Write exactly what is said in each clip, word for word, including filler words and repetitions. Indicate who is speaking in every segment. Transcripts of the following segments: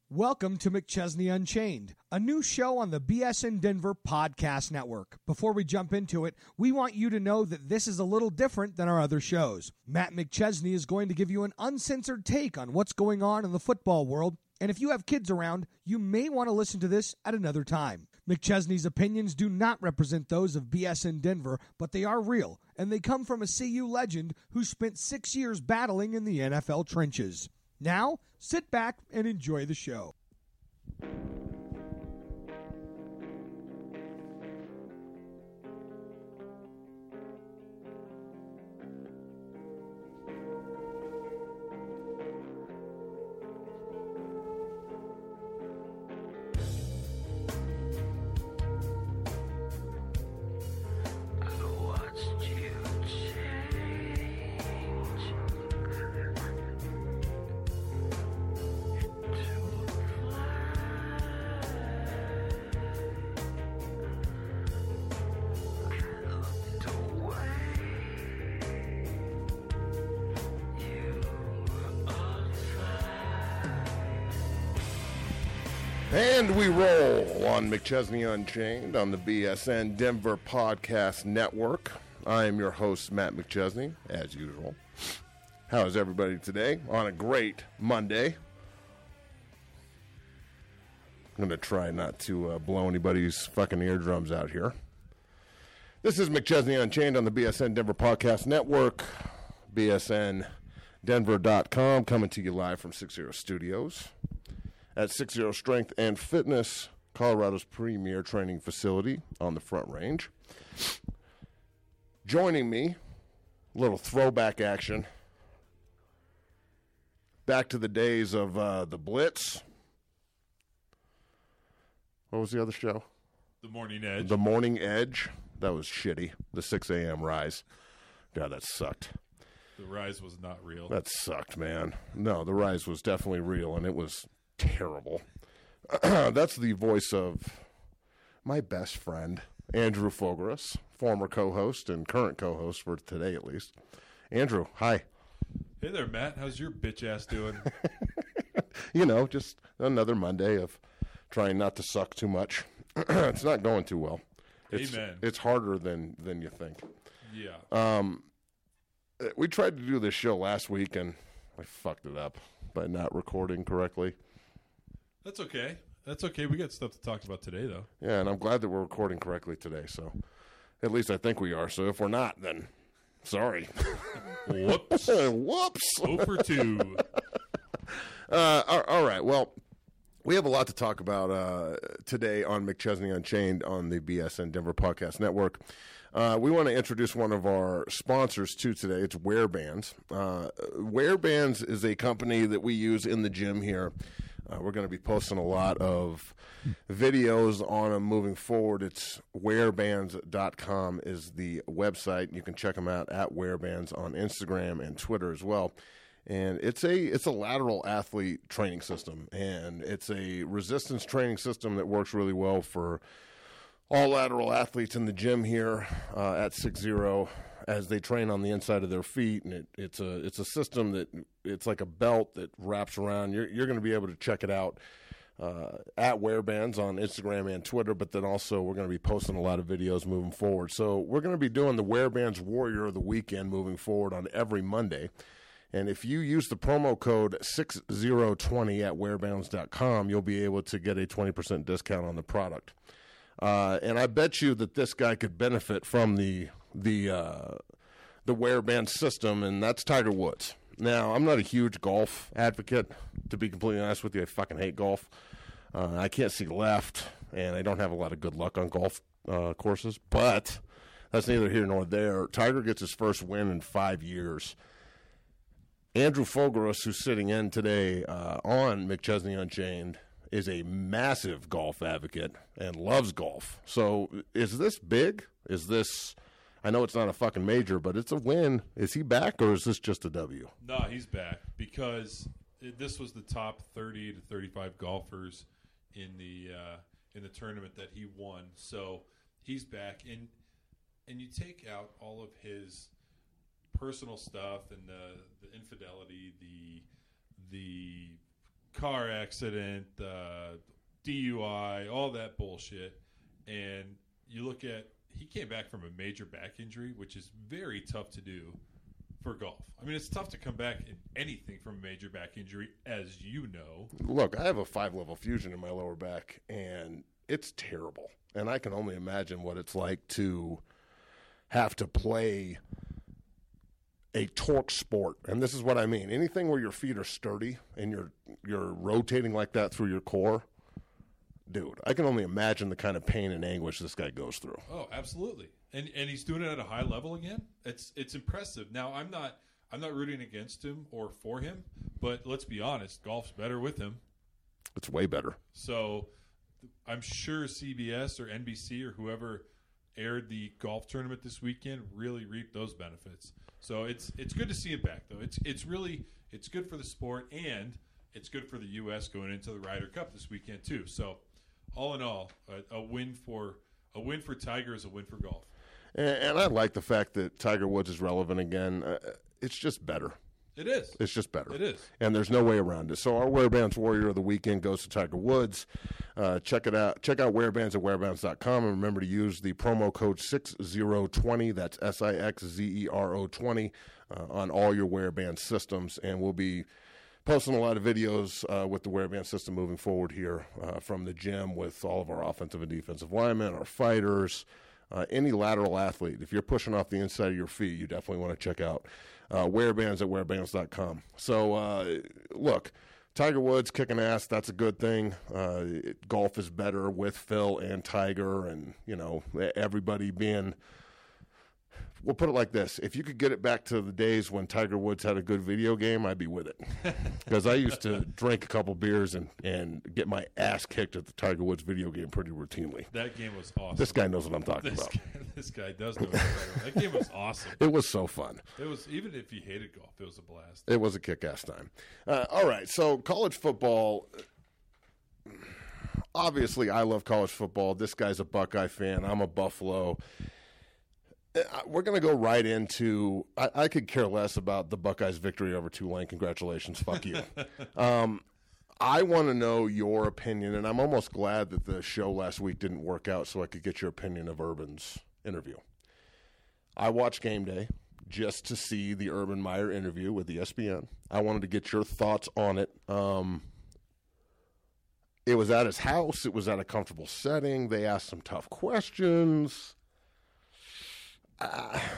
Speaker 1: Welcome to McChesney Unchained, a new show on the B S N Denver Podcast Network. Before we jump into it, we want you to know that this is a little different than our other shows. Matt McChesney is going to give you an uncensored take on what's going on in the football world, and if you have kids around, you may want to listen to this at another time. McChesney's opinions do not represent those of B S N Denver, but they are real, and they come from a C U legend who spent six years battling in the N F L trenches. Now, sit back and enjoy the show.
Speaker 2: And we roll on McChesney Unchained on the B S N Denver Podcast Network. I am your host, Matt McChesney, as usual. How is everybody today on a great Monday? I'm going to try not to uh, blow anybody's fucking eardrums out here. This is McChesney Unchained on the B S N Denver Podcast Network, B S N Denver dot com, coming to you live from six zero Studios. At six zero Strength and Fitness, Colorado's premier training facility on the Front Range. Joining me, a little throwback action. Back to the days of uh, the Blitz. What was the other show?
Speaker 3: The Morning Edge.
Speaker 2: The Morning Edge. That was shitty. The six a.m. Rise. God, that sucked.
Speaker 3: The Rise was not real.
Speaker 2: That sucked, man. No, the Rise was definitely real, and it was terrible. That's the voice of my best friend, Andrew Fogarus, former co-host and current co-host for today at least. Andrew, hi.
Speaker 3: Hey there, Matt. How's your bitch ass doing?
Speaker 2: You know, just another Monday of trying not to suck too much. It's not going too well. It's,
Speaker 3: Amen.
Speaker 2: It's harder than, than you think.
Speaker 3: Yeah.
Speaker 2: Um, we tried to do this show last week, and I fucked it up by not recording correctly.
Speaker 3: That's okay. That's okay. We got stuff to talk about today, though.
Speaker 2: Yeah, and I'm glad that we're recording correctly today, so at least I think we are. So if we're not, then sorry.
Speaker 3: Whoops.
Speaker 2: Whoops.
Speaker 3: oh for two.
Speaker 2: Uh, all, all right, well, we have a lot to talk about uh, today on McChesney Unchained on the B S N Denver Podcast Network. Uh, we want to introduce one of our sponsors too today. It's Wearbands. Uh, Wearbands is a company that we use in the gym here. Uh, we're going to be posting a lot of videos on them moving forward. It's wearbands dot com is the website. You can check them out at Wearbands on Instagram and Twitter as well. And it's a it's a lateral athlete training system, and it's a resistance training system that works really well for all lateral athletes in the gym here uh, at six zero as they train on the inside of their feet. And it, it's a it's a system that it's like a belt that wraps around. You're you're going to be able to check it out uh, at Wearbands on Instagram and Twitter, but then also we're going to be posting a lot of videos moving forward. So we're going to be doing the Wearbands Warrior of the Weekend moving forward on every Monday. And if you use the promo code six zero two zero at wearbands dot com, you'll be able to get a twenty percent discount on the product. Uh, and I bet you that this guy could benefit from the the uh, the Wearband system, and that's Tiger Woods. Now, I'm not a huge golf advocate, to be completely honest with you. I fucking hate golf. Uh, I can't see left, and I don't have a lot of good luck on golf uh, courses. But that's neither here nor there. Tiger gets his first win in five years. Andrew Fogarus, who's sitting in today uh, on McChesney Unchained, is a massive golf advocate and loves golf. So is this big? Is this, I know it's not a fucking major, but it's a win. Is he back, or is this just a W?
Speaker 3: No, he's back because it, this was the top thirty to thirty-five golfers in the uh, in the tournament that he won. So he's back, and and you take out all of his personal stuff and the the infidelity, the the car accident, uh, D U I, all that bullshit. And you look at, he came back from a major back injury, which is very tough to do for golf. I mean, it's tough to come back in anything from a major back injury, as you know.
Speaker 2: Look, I have a five-level fusion in my lower back, and it's terrible. And I can only imagine what it's like to have to play a torque sport. And this is what I mean. Anything where your feet are sturdy and you're you're rotating like that through your core, dude, I can only imagine the kind of pain and anguish this guy goes through.
Speaker 3: Oh, absolutely. And and he's doing it at a high level again. It's it's impressive. Now, I'm not I'm not rooting against him or for him, but let's be honest, golf's better with him.
Speaker 2: It's way better.
Speaker 3: So I'm sure C B S or N B C or whoever aired the golf tournament this weekend really reaped those benefits. So it's it's good to see him back, though. It's it's really it's good for the sport, and it's good for the U S going into the Ryder Cup this weekend too. So all in all, a, a win for a win for Tiger is a win for golf.
Speaker 2: And, and I like the fact that Tiger Woods is relevant again. Uh, it's just better.
Speaker 3: It is.
Speaker 2: It's just better.
Speaker 3: It is.
Speaker 2: And there's no way around it. So our Wearbands Warrior of the Weekend goes to Tiger Woods. Uh, check it out. Check out Wearbands at wearbands dot com. And remember to use the promo code six zero two zero. That's S I X Z E R O twenty uh, on all your Wearband systems. And we'll be posting a lot of videos uh, with the Wearband system moving forward here uh, from the gym with all of our offensive and defensive linemen, our fighters, uh, any lateral athlete. If you're pushing off the inside of your feet, you definitely want to check out Uh, Wearbands at wearbands dot com. So, uh, look, Tiger Woods kicking ass, that's a good thing. Uh, it, golf is better with Phil and Tiger and, you know, everybody being – we'll put it like this. If you could get it back to the days when Tiger Woods had a good video game, I'd be with it. Because I used to drink a couple beers and, and get my ass kicked at the Tiger Woods video game pretty routinely.
Speaker 3: That game was awesome.
Speaker 2: This guy knows what I'm talking
Speaker 3: this
Speaker 2: about.
Speaker 3: Guy, this guy does know what I'm talking about. That game was awesome.
Speaker 2: It was so fun.
Speaker 3: It was, even if you hated golf, it was a blast.
Speaker 2: It was a kick-ass time. Uh, all right, so college football. Obviously, I love college football. This guy's a Buckeye fan. I'm a Buffalo. We're going to go right into I, I could care less about the Buckeyes' victory over Tulane. Congratulations. Fuck you. um, I want to know your opinion, and I'm almost glad that the show last week didn't work out so I could get your opinion of Urban's interview. I watched Game Day just to see the Urban Meyer interview with E S P N. I wanted to get your thoughts on it. Um, it was at his house. It was at a comfortable setting. They asked some tough questions. Uh,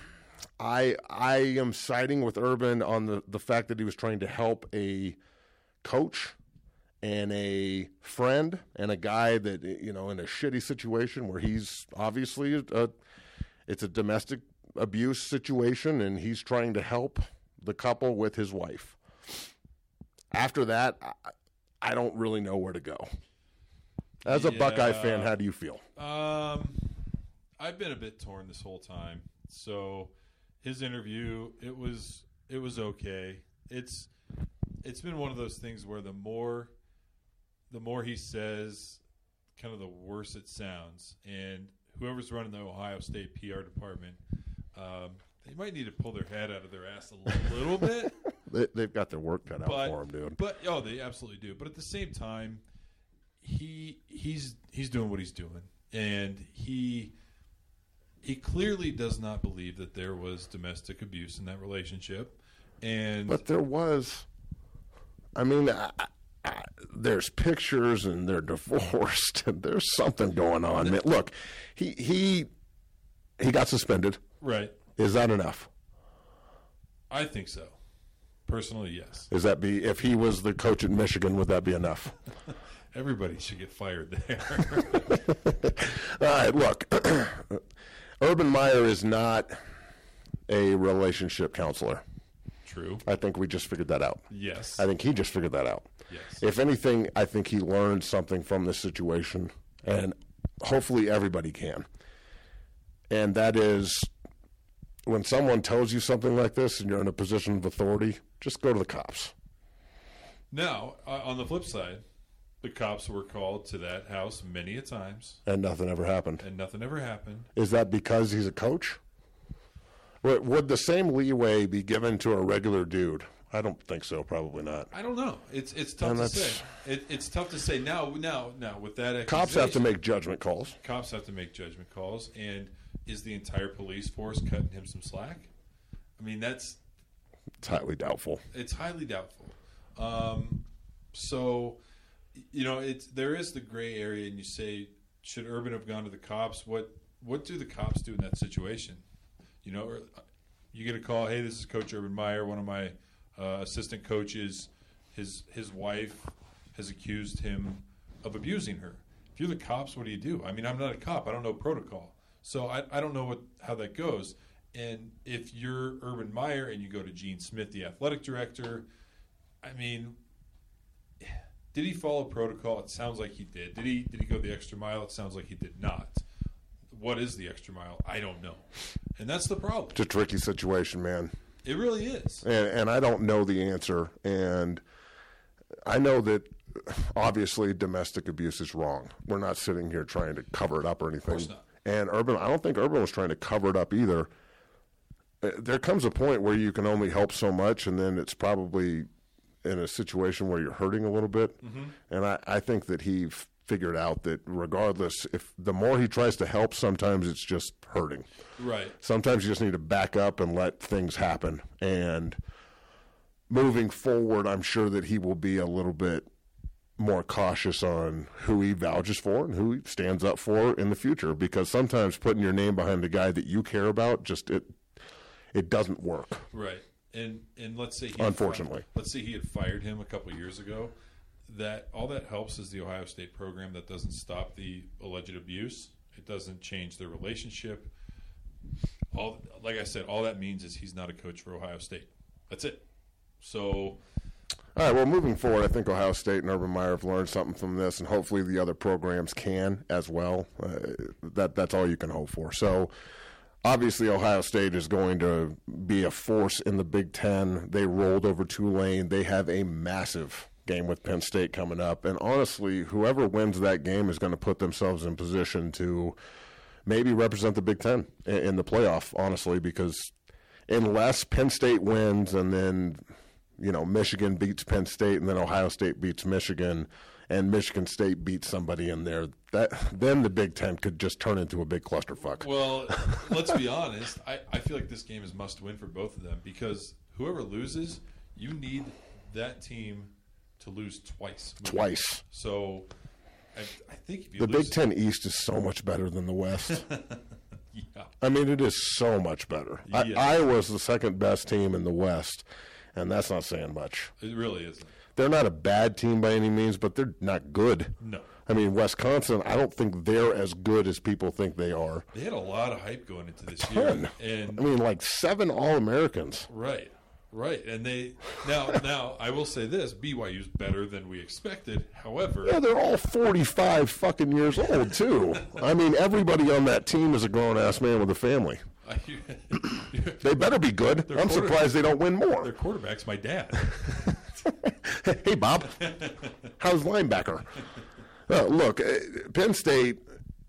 Speaker 2: I I am siding with Urban on the, the fact that he was trying to help a coach and a friend and a guy that, you know, in a shitty situation where he's obviously a, it's a domestic abuse situation and he's trying to help the couple with his wife. After that, I, I don't really know where to go. As a
Speaker 3: yeah.
Speaker 2: Buckeye fan, how do you feel?
Speaker 3: Um, I've been a bit torn this whole time. So his interview, it was it was okay. It's it's been one of those things where the more the more he says, kind of the worse it sounds. And whoever's running the Ohio State P R department, um, they might need to pull their head out of their ass a little bit.
Speaker 2: They, they've got their work cut out
Speaker 3: but,
Speaker 2: for them, dude.
Speaker 3: But oh, they absolutely do. But at the same time, he he's he's doing what he's doing, and he he clearly does not believe that there was domestic abuse in that relationship. And
Speaker 2: but there was. I mean, I, I, there's pictures, and they're divorced, and there's something going on. Man, look, he he he got suspended.
Speaker 3: Right?
Speaker 2: Is that enough?
Speaker 3: I think so. Personally, yes.
Speaker 2: Is that be if he was the coach at Michigan, would that be enough?
Speaker 3: Everybody should get fired there.
Speaker 2: All right, look, Urban Meyer is not a relationship counselor.
Speaker 3: True.
Speaker 2: I think we just figured that out.
Speaker 3: Yes.
Speaker 2: I think he just figured that out.
Speaker 3: Yes.
Speaker 2: If anything, I think he learned something from this situation, and hopefully everybody can. And that is, when someone tells you something like this and you're in a position of authority, just go to the cops.
Speaker 3: Now, uh, on the flip side, the cops were called to that house many a times,
Speaker 2: And nothing ever happened.
Speaker 3: and nothing ever happened.
Speaker 2: Is that because he's a coach? Would would the same leeway be given to a regular dude? I don't think so. Probably not.
Speaker 3: I don't know. It's it's tough
Speaker 2: And
Speaker 3: to
Speaker 2: that's-
Speaker 3: say. It, it's tough to say now. Now, now with that,
Speaker 2: Cops have to
Speaker 3: accusation-
Speaker 2: make judgment calls.
Speaker 3: cops have to make judgment calls. And is the entire police force cutting him some slack? I mean, that's
Speaker 2: It's highly doubtful.
Speaker 3: it's highly doubtful. Um, so, you know, it's there is the gray area, and you say, should Urban have gone to the cops? What what do the cops do in that situation? You know, or, you get a call, hey, this is Coach Urban Meyer, one of my uh, assistant coaches. His his wife has accused him of abusing her. If you're the cops, what do you do? I mean, I'm not a cop. I don't know protocol. So I, I don't know what how that goes. And if you're Urban Meyer and you go to Gene Smith, the athletic director, I mean, did he follow protocol? It sounds like he did. Did he did he go the extra mile? It sounds like he did not. What is the extra mile? I don't know. And that's the problem.
Speaker 2: It's a tricky situation, man.
Speaker 3: It really is.
Speaker 2: And, and I don't know the answer. And I know that obviously domestic abuse is wrong. We're not sitting here trying to cover it up or anything.
Speaker 3: course not.
Speaker 2: And Urban, I don't think Urban was trying to cover it up either. Uh, There comes a point where you can only help so much, and then it's probably in a situation where you're hurting a little bit.
Speaker 3: Mm-hmm.
Speaker 2: And I, I think that he f- figured out that regardless, if the more he tries to help, sometimes it's just hurting.
Speaker 3: Right.
Speaker 2: Sometimes you just need to back up and let things happen. And moving forward, I'm sure that he will be a little bit more cautious on who he vouches for and who he stands up for in the future, because sometimes putting your name behind a guy that you care about, just it it doesn't work.
Speaker 3: Right. And and let's say he had
Speaker 2: Unfortunately.
Speaker 3: fi- let's say he had fired him a couple of years ago. That all that helps is the Ohio State program. That doesn't stop the alleged abuse. It doesn't change their relationship. All like I said, all that means is he's not a coach for Ohio State. That's it. So
Speaker 2: All right, well, moving forward, I think Ohio State and Urban Meyer have learned something from this, and hopefully the other programs can as well. Uh, that That's all you can hope for. So, obviously, Ohio State is going to be a force in the Big Ten. They rolled over Tulane. They have a massive game with Penn State coming up. And honestly, whoever wins that game is going to put themselves in position to maybe represent the Big Ten in, in the playoff, honestly, because unless Penn State wins and then – you know, Michigan beats Penn State, and then Ohio State beats Michigan, and Michigan State beats somebody in there, that then the Big Ten could just turn into a big clusterfuck.
Speaker 3: Well, let's be honest. I, I feel like this game is must win for both of them, because whoever loses, you need that team to lose twice.
Speaker 2: Twice.
Speaker 3: So I, I think if you
Speaker 2: The
Speaker 3: lose,
Speaker 2: Big Ten East is so much better than the West.
Speaker 3: yeah,
Speaker 2: I mean, it is so much better. I,
Speaker 3: Yeah.
Speaker 2: Iowa's the second best team in the West, and that's not saying much.
Speaker 3: it really isn't.
Speaker 2: They're not a bad tean by any means, but they're not good.
Speaker 3: No.
Speaker 2: I mean, Wisconsin, I don't think they're as good as people think they are.
Speaker 3: They had a lot of hype going into this
Speaker 2: Ton.
Speaker 3: year, and
Speaker 2: I mean, like seven All-Americans.
Speaker 3: right, right, and they now now I will say this: B Y U's better than we expected. However,
Speaker 2: Yeah, they're all forty-five fucking years old, too. I mean, everybody on that team is a grown-ass man with a family.
Speaker 3: I,
Speaker 2: They better be good.
Speaker 3: Their
Speaker 2: I'm
Speaker 3: quarter-
Speaker 2: surprised they don't win
Speaker 3: their
Speaker 2: more.
Speaker 3: quarterback's my dad.
Speaker 2: Hey, Bob. How's linebacker? Uh, look, uh, Penn State,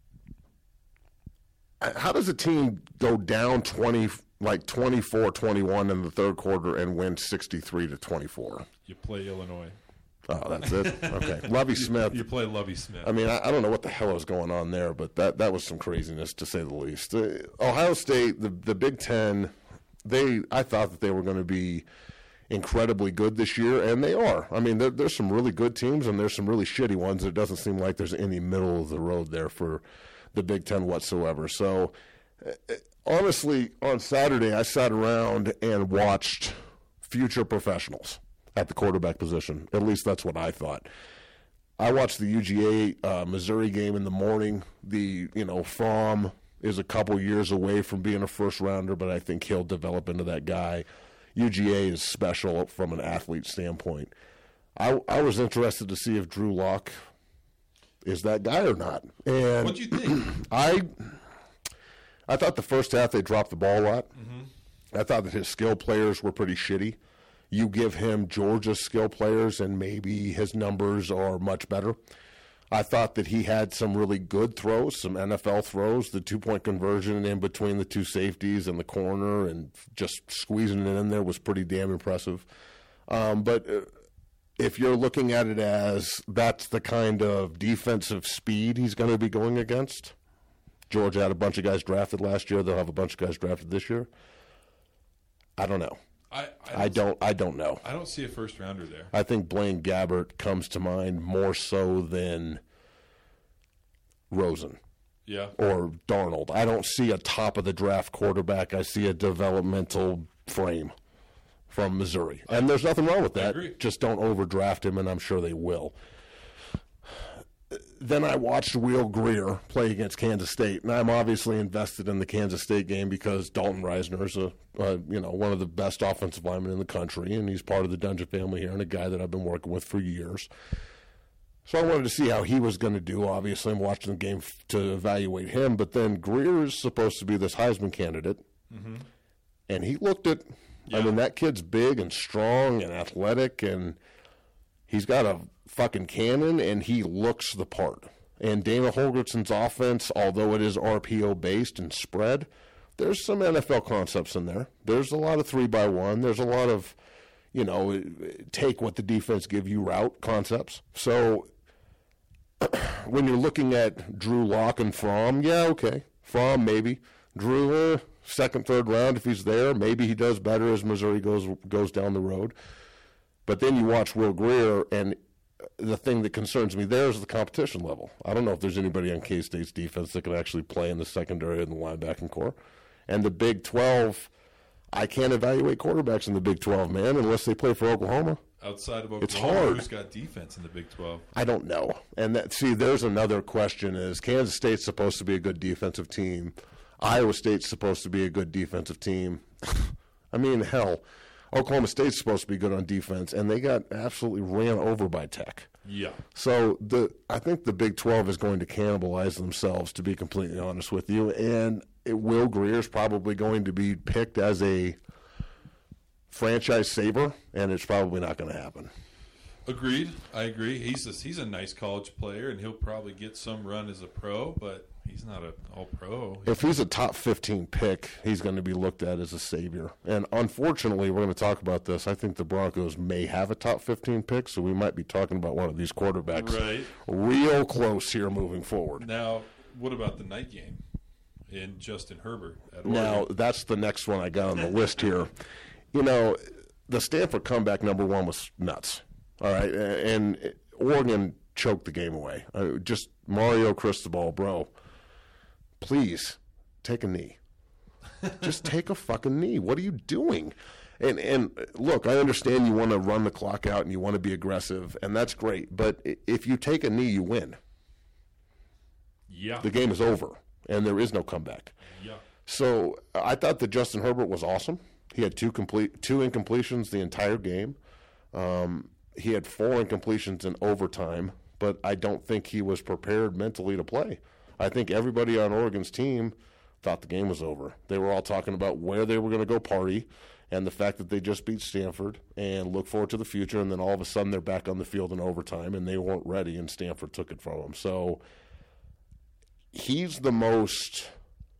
Speaker 2: uh, how does a team go down twenty, like twenty-four twenty-one in the third quarter and win sixty-three to twenty-four?
Speaker 3: You play Illinois.
Speaker 2: Oh, that's it? Okay. Lovey Smith.
Speaker 3: You play Lovey Smith.
Speaker 2: I mean, I, I don't know what the hell was going on there, but that, that was some craziness to say the least. Uh, Ohio State, the the Big Ten, they I thought that they were going to be incredibly good this year, and they are. I mean, there, there's some really good teams, and there's some really shitty ones. It doesn't seem like there's any middle of the road there for the Big Ten whatsoever. So, uh, honestly, on Saturday, I sat around and watched future professionals at the quarterback position. At least that's what I thought. I watched the U G A uh, Missouri game in the morning. The, you know, Fromm is a couple years away from being a first rounder, but I think he'll develop into that guy. U G A is special from an athlete standpoint. I, I was interested to see if Drew Lock is that guy or not. And
Speaker 3: what do you think?
Speaker 2: I I thought the first half they dropped the ball a lot. Mm-hmm. I thought that his skill players were pretty shitty. You give him Georgia's skill players, and maybe his numbers are much better. I thought that he had some really good throws, some N F L throws, the two-point conversion in between the two safeties and the corner, and just squeezing it in there was pretty damn impressive. Um, but uh, if you're looking at it as that's the kind of defensive speed he's going to be going against, Georgia had a bunch of guys drafted last year. They'll have a bunch of guys drafted this year. I don't know.
Speaker 3: I, I, don't,
Speaker 2: I don't. I don't know.
Speaker 3: I don't see a first rounder there.
Speaker 2: I think Blaine Gabbert comes to mind more so than Rosen.
Speaker 3: Yeah.
Speaker 2: Or Darnold. I don't see a top of the draft quarterback. I see a developmental frame from Missouri, and there's nothing wrong with that.
Speaker 3: I agree.
Speaker 2: Just don't overdraft him, and I'm sure they will. Then I watched Will Greer play against Kansas State, and I'm obviously invested in the Kansas State game because Dalton Reisner is a, uh, you know, one of the best offensive linemen in the country, and he's part of the Dungeon family here and a guy that I've been working with for years. So I wanted to see how he was going to do. Obviously, I'm watching the game f- to evaluate him, but then Greer is supposed to be this Heisman candidate, mm-hmm. and he looked at, yeah. I mean, that kid's big and strong and athletic, and he's got a fucking cannon, and he looks the part. And Dana Holgerson's offense, although it is R P O-based and spread, there's some N F L concepts in there. There's a lot of three by one. There's a lot of, you know, take what the defense give you route concepts. So when you're looking at Drew Lock and Fromm, yeah, okay. Fromm, maybe. Drew, eh, second, third round, if he's there, maybe he does better as Missouri goes goes down the road. But then you watch Will Greer, and the thing that concerns me there is the competition level. I don't know if there's anybody on K-State's defense that can actually play in the secondary and the linebacking core. And the Big twelve, I can't evaluate quarterbacks in the Big twelve, man, unless they play for Oklahoma.
Speaker 3: Outside of Oklahoma,
Speaker 2: it's hard.
Speaker 3: Who's got defense in the Big twelve?
Speaker 2: I don't know. And that, see, there's another question is Kansas State's supposed to be a good defensive team. Iowa State's supposed to be a good defensive team. I mean, hell, Oklahoma State's supposed to be good on defense, and they got absolutely ran over by Tech.
Speaker 3: Yeah.
Speaker 2: So the I think the Big twelve is going to cannibalize themselves, to be completely honest with you. And it, Will Greer is probably going to be picked as a franchise saver, and it's probably not going to happen.
Speaker 3: Agreed. I agree. He's a, he's a nice college player, and he'll probably get some run as a pro, but he's not an all-pro.
Speaker 2: If he's a top fifteen pick, he's going to be looked at as a savior. And unfortunately, we're going to talk about this. I think the Broncos may have a top fifteen pick, so we might be talking about one of these quarterbacks
Speaker 3: right.
Speaker 2: real close here moving forward.
Speaker 3: Now, what about the night game in Justin Herbert at Oregon?
Speaker 2: Now, that's the next one I got on the list here. You know, the Stanford comeback number one was nuts. All right, and Oregon choked the game away. Uh, just Mario Cristobal, bro. Please take a knee. Just take a fucking knee. What are you doing? And and look, I understand you want to run the clock out and you want to be aggressive, and that's great. But if you take a knee, you win.
Speaker 3: Yeah.
Speaker 2: The game is over, and there is no comeback.
Speaker 3: Yeah.
Speaker 2: So I thought that Justin Herbert was awesome. He had two complete two incompletions the entire game. Um, he had four incompletions in overtime, but I don't think he was prepared mentally to play. I think everybody on Oregon's team thought the game was over. They were all talking about where they were going to go party and the fact that they just beat Stanford and look forward to the future, and then all of a sudden they're back on the field in overtime, and they weren't ready, and Stanford took it from them. So he's the most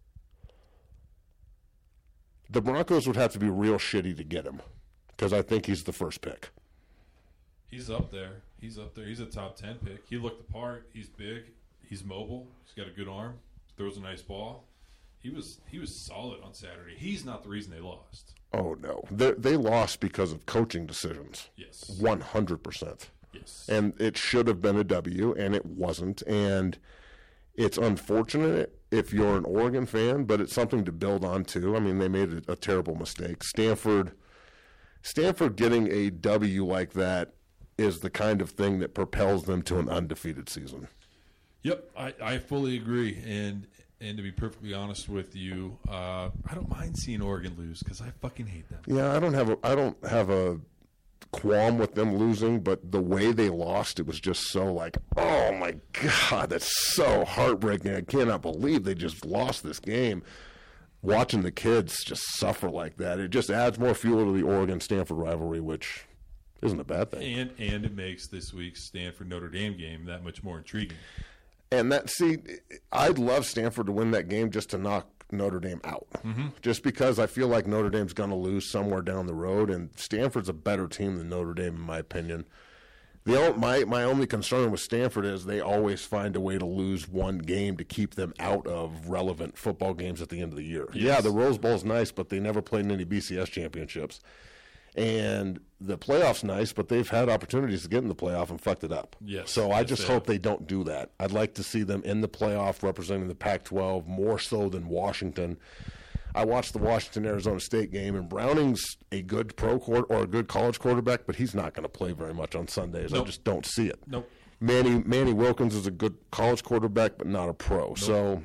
Speaker 2: – the Broncos would have to be real shitty to get him because I think he's the first pick.
Speaker 3: He's up there. He's up there. He's a top ten pick. He looked the part. He's big. He's mobile. He's got a good arm. Throws a nice ball. He was he was solid on Saturday. He's not the reason they lost.
Speaker 2: Oh, no. They, they lost because of coaching decisions.
Speaker 3: Yes.
Speaker 2: one hundred percent.
Speaker 3: Yes.
Speaker 2: And it should have been a W, and it wasn't. And it's unfortunate if you're an Oregon fan, but it's something to build on, too. I mean, they made a, a terrible mistake. Stanford, Stanford getting a W like that is the kind of thing that propels them to an undefeated season.
Speaker 3: Yep, I, I fully agree. And and to be perfectly honest with you, uh, I don't mind seeing Oregon lose because I fucking hate them.
Speaker 2: Yeah, I don't have a I don't have a qualm with them losing, but the way they lost, it was just so like, oh my God, that's so heartbreaking. I cannot believe they just lost this game. Watching the kids just suffer like that, it just adds more fuel to the Oregon-Stanford rivalry, which isn't a bad thing.
Speaker 3: And and it makes this week's Stanford-Notre Dame game that much more intriguing.
Speaker 2: And that, see, I'd love Stanford to win that game just to knock Notre Dame out.
Speaker 3: Mm-hmm.
Speaker 2: Just because I feel like Notre Dame's going to lose somewhere down the road, and Stanford's a better team than Notre Dame, in my opinion. The only, my my only concern with Stanford is they always find a way to lose one game to keep them out of relevant football games at the end of the year.
Speaker 3: Yes.
Speaker 2: Yeah, the Rose Bowl's nice, but they never played in any B C S championships. And the playoff's nice, but they've had opportunities to get in the playoff and fucked it up.
Speaker 3: Yes,
Speaker 2: so I
Speaker 3: yes,
Speaker 2: just
Speaker 3: they
Speaker 2: hope
Speaker 3: have.
Speaker 2: they don't do that. I'd like to see them in the playoff representing the Pac twelve more so than Washington. I watched the Washington-Arizona State game, and Browning's a good pro court or a good college quarterback, but he's not going to play very much on Sundays.
Speaker 3: Nope.
Speaker 2: I just don't see it.
Speaker 3: Nope.
Speaker 2: Manny Manny Wilkins is a good college quarterback, but not a pro. Nope. So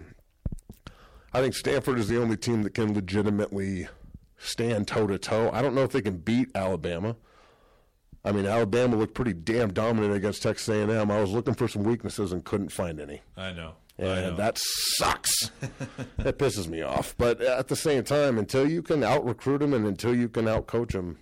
Speaker 2: I think Stanford is the only team that can legitimately stand toe-to-toe. I don't know if they can beat Alabama. I mean, Alabama looked pretty damn dominant against Texas A and M. I was looking for some weaknesses and couldn't find any.
Speaker 3: I know.
Speaker 2: And
Speaker 3: I know.
Speaker 2: that sucks. That pisses me off. But at the same time, until you can out-recruit them and until you can out-coach them,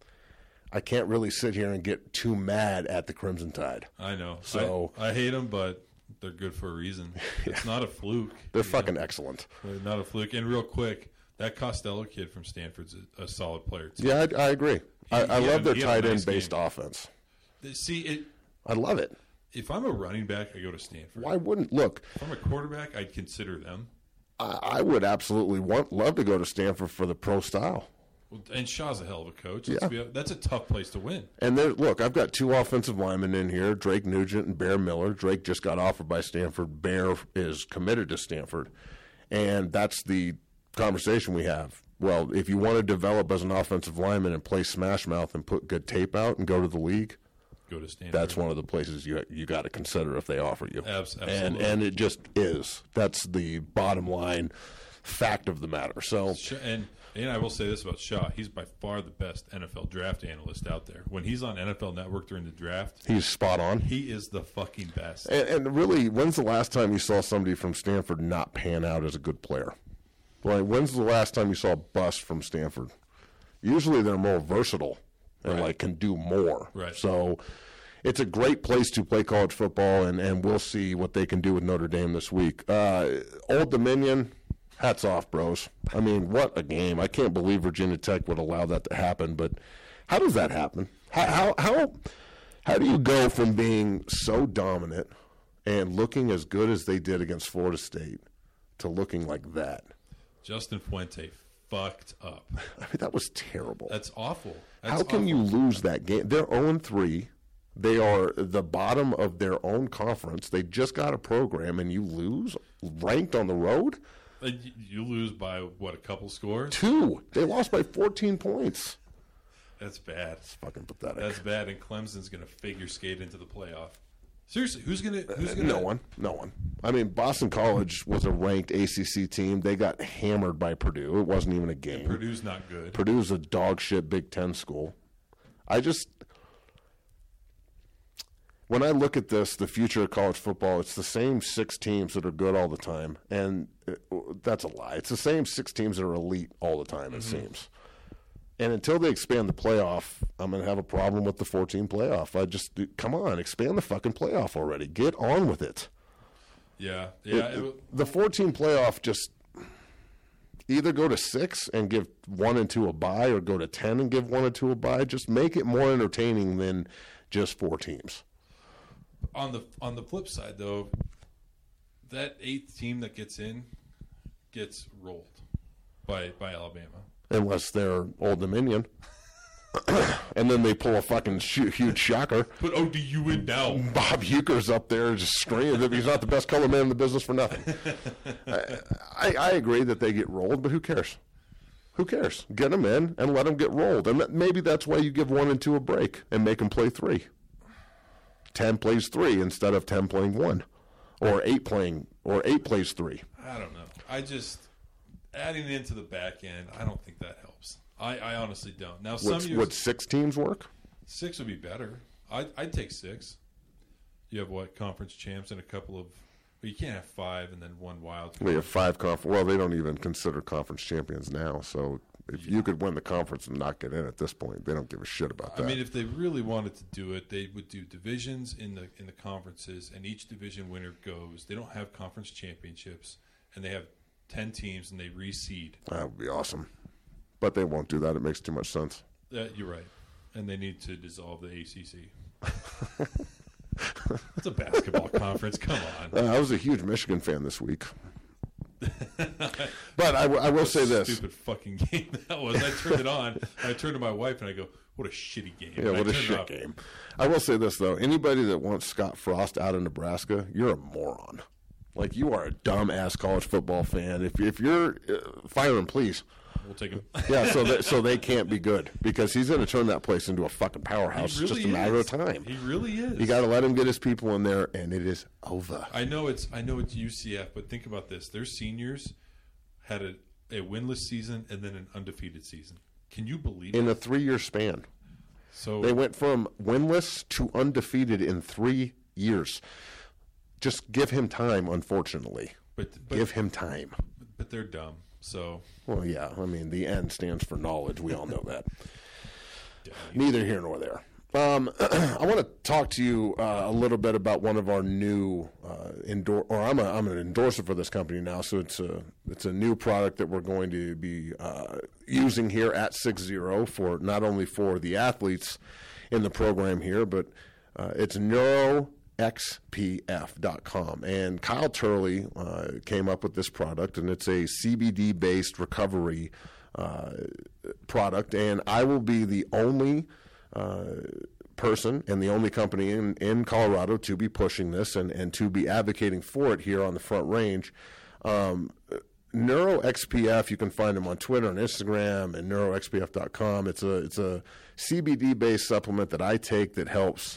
Speaker 2: I can't really sit here and get too mad at the Crimson Tide.
Speaker 3: I know.
Speaker 2: So
Speaker 3: I, I hate them, but they're good for a reason.
Speaker 2: Yeah.
Speaker 3: It's not a fluke.
Speaker 2: They're fucking know? excellent.
Speaker 3: They're not a fluke. And real quick, that Costello kid from Stanford's a, a solid player, too.
Speaker 2: Yeah, I, I agree.
Speaker 3: He,
Speaker 2: I, I
Speaker 3: he
Speaker 2: love
Speaker 3: had,
Speaker 2: their
Speaker 3: tight
Speaker 2: tight end-based offense.
Speaker 3: See, it.
Speaker 2: I love it.
Speaker 3: If I'm a running back, I go to Stanford.
Speaker 2: Why wouldn't look?
Speaker 3: If I'm a quarterback, I'd consider them.
Speaker 2: I, I would absolutely want love to go to Stanford for the pro style.
Speaker 3: Well, and Shaw's a hell of a coach.
Speaker 2: Yeah.
Speaker 3: Let's be, that's a tough place to win.
Speaker 2: And there, look, I've got two offensive linemen in here, Drake Nugent and Bear Miller. Drake just got offered by Stanford. Bear is committed to Stanford. And that's the conversation we have. Well, if you want to develop as an offensive lineman and play smash mouth and put good tape out and go to the league,
Speaker 3: go to Stanford.
Speaker 2: that's one of the places you you got to consider if they offer you.
Speaker 3: Abs-
Speaker 2: and
Speaker 3: absolutely.
Speaker 2: and it just is. That's the bottom line fact of the matter. So
Speaker 3: and and I will say this about Shaw: he's by far the best N F L draft analyst out there. When he's on N F L Network during the draft,
Speaker 2: he's spot on.
Speaker 3: He is the fucking best.
Speaker 2: And, and really, when's the last time you saw somebody from Stanford not pan out as a good player? Like, when's the last time you saw a bust from Stanford? Usually, they're more versatile and
Speaker 3: Right.
Speaker 2: like can do more.
Speaker 3: Right.
Speaker 2: So it's a great place to play college football, and, and we'll see what they can do with Notre Dame this week. Uh, Old Dominion, hats off, bros. I mean, what a game. I can't believe Virginia Tech would allow that to happen, but how does that happen? How how how, how do you go from being so dominant and looking as good as they did against Florida State to looking like that?
Speaker 3: Justin Fuente fucked up.
Speaker 2: I mean, that was terrible.
Speaker 3: That's awful. That's
Speaker 2: How can
Speaker 3: awful.
Speaker 2: you lose that game? They're oh and three. They are the bottom of their own conference. They just got a program, and you lose ranked on the road?
Speaker 3: Uh, y- You lose by, what, a couple scores?
Speaker 2: Two. They lost by fourteen points.
Speaker 3: That's bad.
Speaker 2: It's fucking pathetic.
Speaker 3: That's bad, and Clemson's going to figure skate into the playoff. Seriously, who's going to? Who's
Speaker 2: Uh,
Speaker 3: going
Speaker 2: no one. No one. I mean, Boston College was a ranked A C C team. They got hammered by Purdue. It wasn't even a game.
Speaker 3: Purdue's not good.
Speaker 2: Purdue's a dog shit Big Ten school. I just, when I look at this, the future of college football, it's the same six teams that are good all the time. And uh, that's a lie. It's the same six teams that are elite all the time, it
Speaker 3: Mm-hmm.
Speaker 2: seems. And until they expand the playoff, I'm going to have a problem with the fourteen playoff. I just, come on, expand the fucking playoff already. Get on with it.
Speaker 3: Yeah, yeah.
Speaker 2: It-
Speaker 3: It,
Speaker 2: the fourteen playoff, just either go to six and give one and two a bye, or go to ten and give one and two a bye. Just make it more entertaining than just four teams.
Speaker 3: on the on the flip side, though, that eighth team that gets in gets rolled by by Alabama.
Speaker 2: Unless they're Old Dominion. And then they pull a fucking sh- huge shocker.
Speaker 3: Put O D U in now.
Speaker 2: Bob Euchre's up there just screaming that he's not the best color man in the business for nothing. I, I, I agree that they get rolled, but who cares? Who cares? Get them in and let them get rolled. And that, maybe that's why you give one and two a break and make them play three. Ten plays three instead of ten playing one. Or eight playing, or eight plays three.
Speaker 3: I don't know. I just adding it into the back end. I don't think that helps. I, I honestly don't. Now some
Speaker 2: Would,
Speaker 3: years
Speaker 2: would six teams work?
Speaker 3: six would be better. I'd, I'd take six. You have what, conference champs and a couple of. But you can't have five and then one wild card.
Speaker 2: They have five conference. Well, they don't even consider conference champions now. So if you could win the conference and not get in at this point, they don't give a shit about that.
Speaker 3: I mean, if they really wanted to do it, they would do divisions in the in the conferences, and each division winner goes. They don't have conference championships, and they have ten teams and they reseed.
Speaker 2: That would be awesome. But they won't do that. It makes too much sense.
Speaker 3: Uh, you're right. And they need to dissolve the A C C. It's a basketball conference. Come on.
Speaker 2: Uh, I was a huge Michigan fan this week. But I, w- I will say this.
Speaker 3: Stupid fucking game that was. I turned it on. I turned to my wife and I go, what a shitty game.
Speaker 2: Yeah, what a shit game. I will say this, though. Anybody that wants Scott Frost out of Nebraska, you're a moron. Like, you are a dumb-ass college football fan. If, if you're uh, – fire him, please.
Speaker 3: We'll take him.
Speaker 2: Yeah, so that, so they can't be good because he's going to turn that place into a fucking powerhouse.
Speaker 3: Really
Speaker 2: it's just a matter
Speaker 3: is.
Speaker 2: of time.
Speaker 3: He really is.
Speaker 2: You got to let him get his people in there, and it is over.
Speaker 3: I know it's I know it's U C F, but think about this. Their seniors had a, a winless season and then an undefeated season. Can you believe
Speaker 2: in
Speaker 3: it?
Speaker 2: a three-year span.
Speaker 3: So
Speaker 2: they went from winless to undefeated in three years. Just give him time, unfortunately.
Speaker 3: But, but
Speaker 2: give him time.
Speaker 3: But they're dumb. So
Speaker 2: well, yeah. I mean, the N stands for knowledge. We all know that. Neither here nor there. Um, I want to talk to you uh, a little bit about one of our new uh, endor- or I'm a, I'm an endorser for this company now, so it's a it's a new product that we're going to be uh, using here at six zero for not only for the athletes in the program here, but uh, it's neuro x p f dot com. And Kyle Turley uh, came up with this product, and it's a C B D-based recovery uh, product, and I will be the only Uh, person and the only company in, in Colorado to be pushing this and, and to be advocating for it here on the Front Range. Um, Neuro X P F, you can find them on Twitter and Instagram and neuro x p f dot com. It's a it's a C B D-based supplement that I take that helps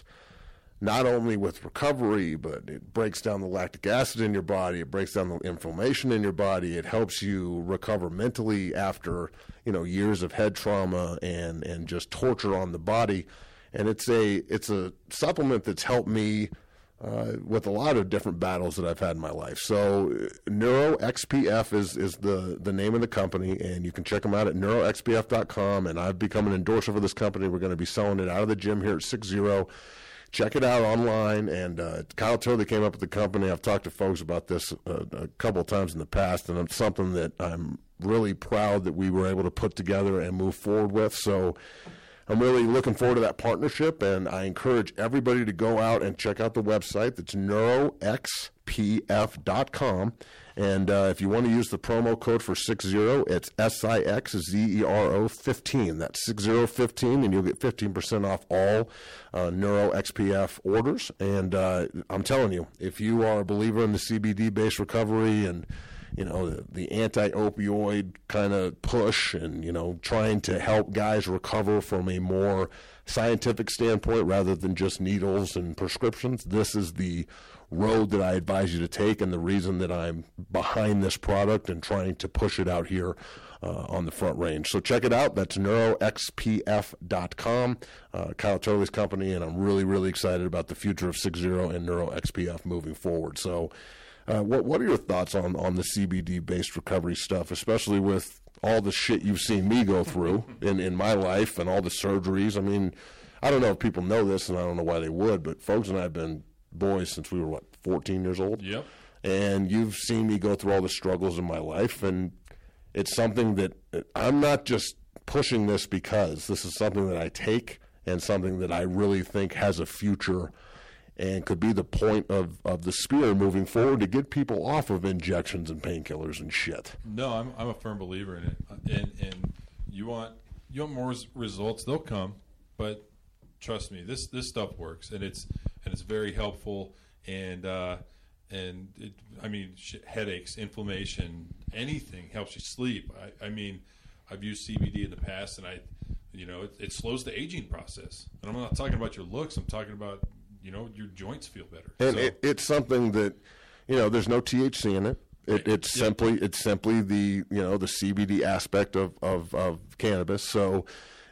Speaker 2: not only with recovery, but it breaks down the lactic acid in your body. It breaks down the inflammation in your body. It helps you recover mentally after, you know, years of head trauma and, and just torture on the body. And it's a it's a supplement that's helped me uh, with a lot of different battles that I've had in my life. So Neuro X P F is, is the, the name of the company, and you can check them out at neuro x p f dot com. And I've become an endorser for this company. We're going to be selling it out of the gym here at six zero. Check it out online, and uh, Kyle Turley came up with the company. I've talked to folks about this uh, a couple of times in the past, and it's something that I'm really proud that we were able to put together and move forward with. So I'm really looking forward to that partnership, and I encourage everybody to go out and check out the website. That's neuro x p f dot com. And uh, if you want to use the promo code for six zero, it's S I X Z E R O fifteen. That's six zero fifteen, and you'll get fifteen percent off all uh, Neuro X P F orders. And uh, I'm telling you, if you are a believer in the C B D-based recovery and, you know, the, the anti-opioid kind of push and, you know, trying to help guys recover from a more scientific standpoint rather than just needles and prescriptions, this is the road that I advise you to take, and the reason that I'm behind this product and trying to push it out here uh, on the Front Range. So check it out. That's neuro x p f dot com, uh, Kyle Turley's company, and I'm really, really excited about the future of six zero and Neuro X P F moving forward. So uh, what what are your thoughts on, on the C B D-based recovery stuff, especially with all the shit you've seen me go through in, in my life and all the surgeries? I mean, I don't know if people know this, and I don't know why they would, but folks and I have been boys since we were, what, fourteen years old?
Speaker 3: Yep.
Speaker 2: And you've seen me go through all the struggles in my life, and it's something that I'm not just pushing this because this is something that I take and something that I really think has a future and could be the point of, of the spear moving forward to get people off of injections and painkillers and shit.
Speaker 3: No, I'm I'm a firm believer in it, and and you want you want more res- results, they'll come, but trust me, this this stuff works, and it's and it's very helpful, and uh, and it, I mean sh- headaches, inflammation, anything helps you sleep. I, I mean, I've used C B D in the past, and I, you know, it, it slows the aging process, and I'm not talking about your looks. I'm talking about, you know, your joints feel better.
Speaker 2: And
Speaker 3: so,
Speaker 2: it, it's something that, you know, there's no T H C in it. It, it's
Speaker 3: yeah.
Speaker 2: simply it's simply the, you know, the C B D aspect of, of, of cannabis. So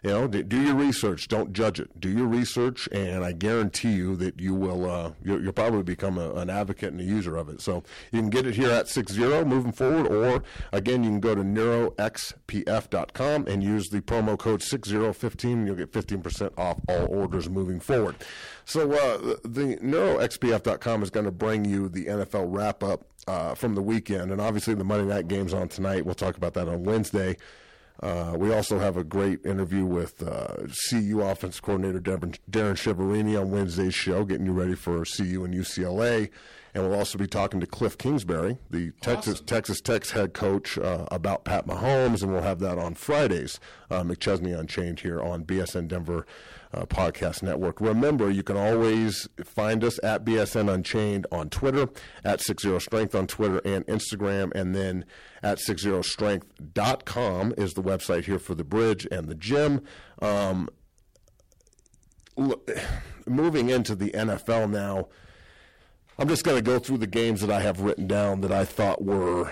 Speaker 2: You know, do, do your research. Don't judge it. Do your research, and I guarantee you that you will. Uh, you'll, you'll probably become a, an advocate and a user of it. So you can get it here at six zero moving forward, or again, you can go to neuro x p f dot com and use the promo code six zero fifteen, and you'll get fifteen percent off all orders moving forward. So uh, the neuro x p f dot com is going to bring you the N F L wrap up uh, from the weekend, and obviously the Monday night game's on tonight. We'll talk about that on Wednesday. Uh, we also have a great interview with uh, C U offensive coordinator Darren, Darren Chiaverini on Wednesday's show, getting you ready for C U and U C L A. And we'll also be talking to Cliff Kingsbury, the Texas
Speaker 3: Awesome.
Speaker 2: Texas Tech's head coach, uh, about Pat Mahomes, and we'll have that on Fridays. Uh, McChesney Unchained here on B S N Denver uh, Podcast Network. Remember, you can always find us at B S N Unchained on Twitter, at six zero strength on Twitter and Instagram, and then at six zero strength dot com is the website here for the Bridge and the gym. Um, look, moving into the N F L now, I'm just going to go through the games that I have written down that I thought were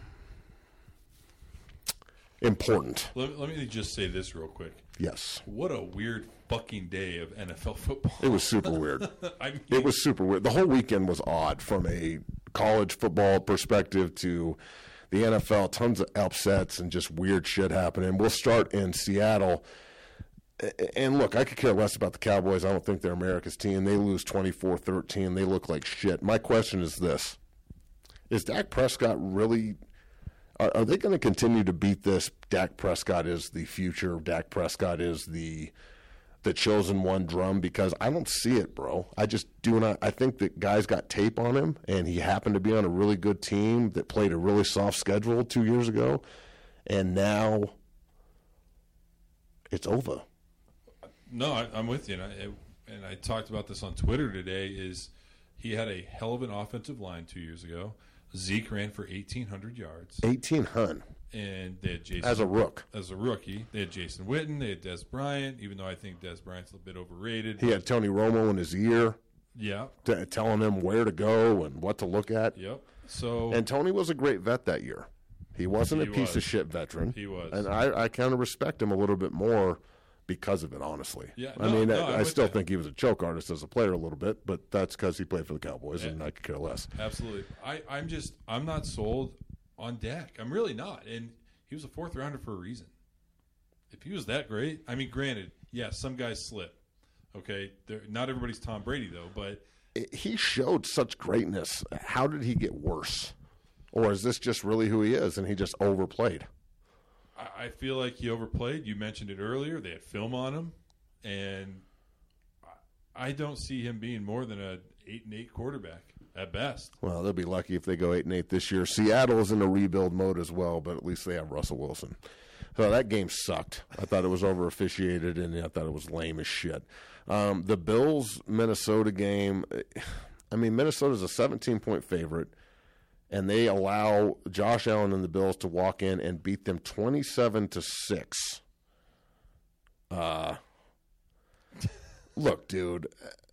Speaker 2: important.
Speaker 3: Let, let me just say this real quick.
Speaker 2: Yes.
Speaker 3: What a weird fucking day of N F L football.
Speaker 2: It was super weird.
Speaker 3: I mean,
Speaker 2: It was super weird. The whole weekend was odd from a college football perspective to the N F L. Tons of upsets and just weird shit happening. We'll start in Seattle. And look, I could care less about the Cowboys. I don't think they're America's team. They lose twenty-four thirteen. They look like shit. My question is this. Is Dak Prescott really are, – are they going to continue to beat this? Dak Prescott is the future. Dak Prescott is the the chosen one drum, because I don't see it, bro. I just do not – I think that guys got tape on him, and he happened to be on a really good team that played a really soft schedule two years ago, and now it's over.
Speaker 3: No, I, I'm with you, and I, and I talked about this on Twitter today. Is he had a hell of an offensive line two years ago. Zeke ran for eighteen hundred yards,
Speaker 2: eighteen hundred
Speaker 3: and they had Jason
Speaker 2: as a rook.
Speaker 3: As a rookie, they had Jason Witten, they had Des Bryant. Even though I think Des Bryant's a bit overrated,
Speaker 2: He had Tony Romo in his ear,
Speaker 3: yeah,
Speaker 2: t- telling him where to go and what to look at.
Speaker 3: yep. So
Speaker 2: And Tony was a great vet that year. He wasn't
Speaker 3: He
Speaker 2: a piece
Speaker 3: was.
Speaker 2: of shit veteran.
Speaker 3: He was.
Speaker 2: And I, I kind of respect him a little bit more because of it, honestly.
Speaker 3: Yeah,
Speaker 2: I
Speaker 3: no,
Speaker 2: mean,
Speaker 3: no,
Speaker 2: I,
Speaker 3: I'm
Speaker 2: I
Speaker 3: with
Speaker 2: still
Speaker 3: that.
Speaker 2: think he was a choke artist as a player a little bit, but that's because he played for the Cowboys,
Speaker 3: Yeah.
Speaker 2: and I could care less.
Speaker 3: Absolutely. I, I'm just I'm not sold on Dak. I'm really not. And he was a fourth rounder for a reason. If he was that great, I mean, granted, yes, some guys slip. Okay, They're, not everybody's Tom Brady though, but
Speaker 2: It- he showed such greatness. How did he get worse? Or is this just really who he is, and he just overplayed?
Speaker 3: I, I feel like he overplayed. You mentioned it earlier. They had film on him, and I, I don't see him being more than a eight and eight quarterback at best.
Speaker 2: Well, they'll be lucky if they go eight and eight this year. Seattle is in a rebuild mode as well, but at least they have Russell Wilson. So that game sucked. I thought it was over officiated, and I thought it was lame as shit. Um, the Bills Minnesota game. I mean, Minnesota's a seventeen point favorite, and they allow Josh Allen and the Bills to walk in and beat them twenty-seven to six. Uh, look, dude.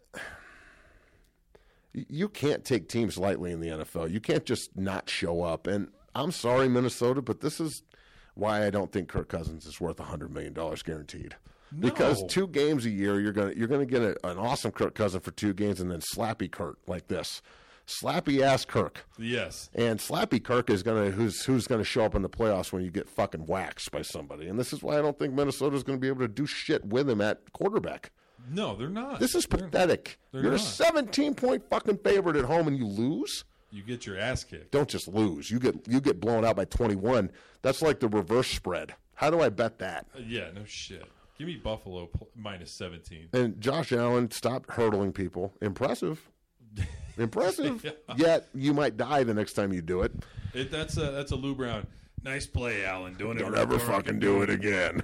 Speaker 2: You can't take teams lightly in the N F L. You can't just not show up. And I'm sorry, Minnesota, but this is why I don't think Kirk Cousins is worth one hundred million dollars guaranteed.
Speaker 3: No.
Speaker 2: Because two games a year, you're gonna you're gonna get a, an awesome Kirk Cousins for two games, and then slappy Kirk like this, slappy ass Kirk.
Speaker 3: Yes.
Speaker 2: And slappy Kirk is gonna who's who's gonna show up in the playoffs when you get fucking waxed by somebody. And this is why I don't think Minnesota's gonna be able to do shit with him at quarterback.
Speaker 3: No, they're not.
Speaker 2: This is
Speaker 3: They're-
Speaker 2: pathetic.
Speaker 3: they're
Speaker 2: You're
Speaker 3: not.
Speaker 2: a seventeen point fucking favorite at home, and you lose.
Speaker 3: You get your ass kicked.
Speaker 2: Don't just lose. You get you get blown out by twenty-one. That's like the reverse spread. How do I bet that?
Speaker 3: Uh, yeah, no shit. Give me Buffalo pl- minus seventeen.
Speaker 2: And Josh Allen stopped hurdling people. Impressive. Impressive.
Speaker 3: Yeah.
Speaker 2: Yet you might die the next time you do it.
Speaker 3: It, that's a that's a Lou Brown. Nice play, Allen. Don't,
Speaker 2: Don't
Speaker 3: ever,
Speaker 2: ever fucking do it again.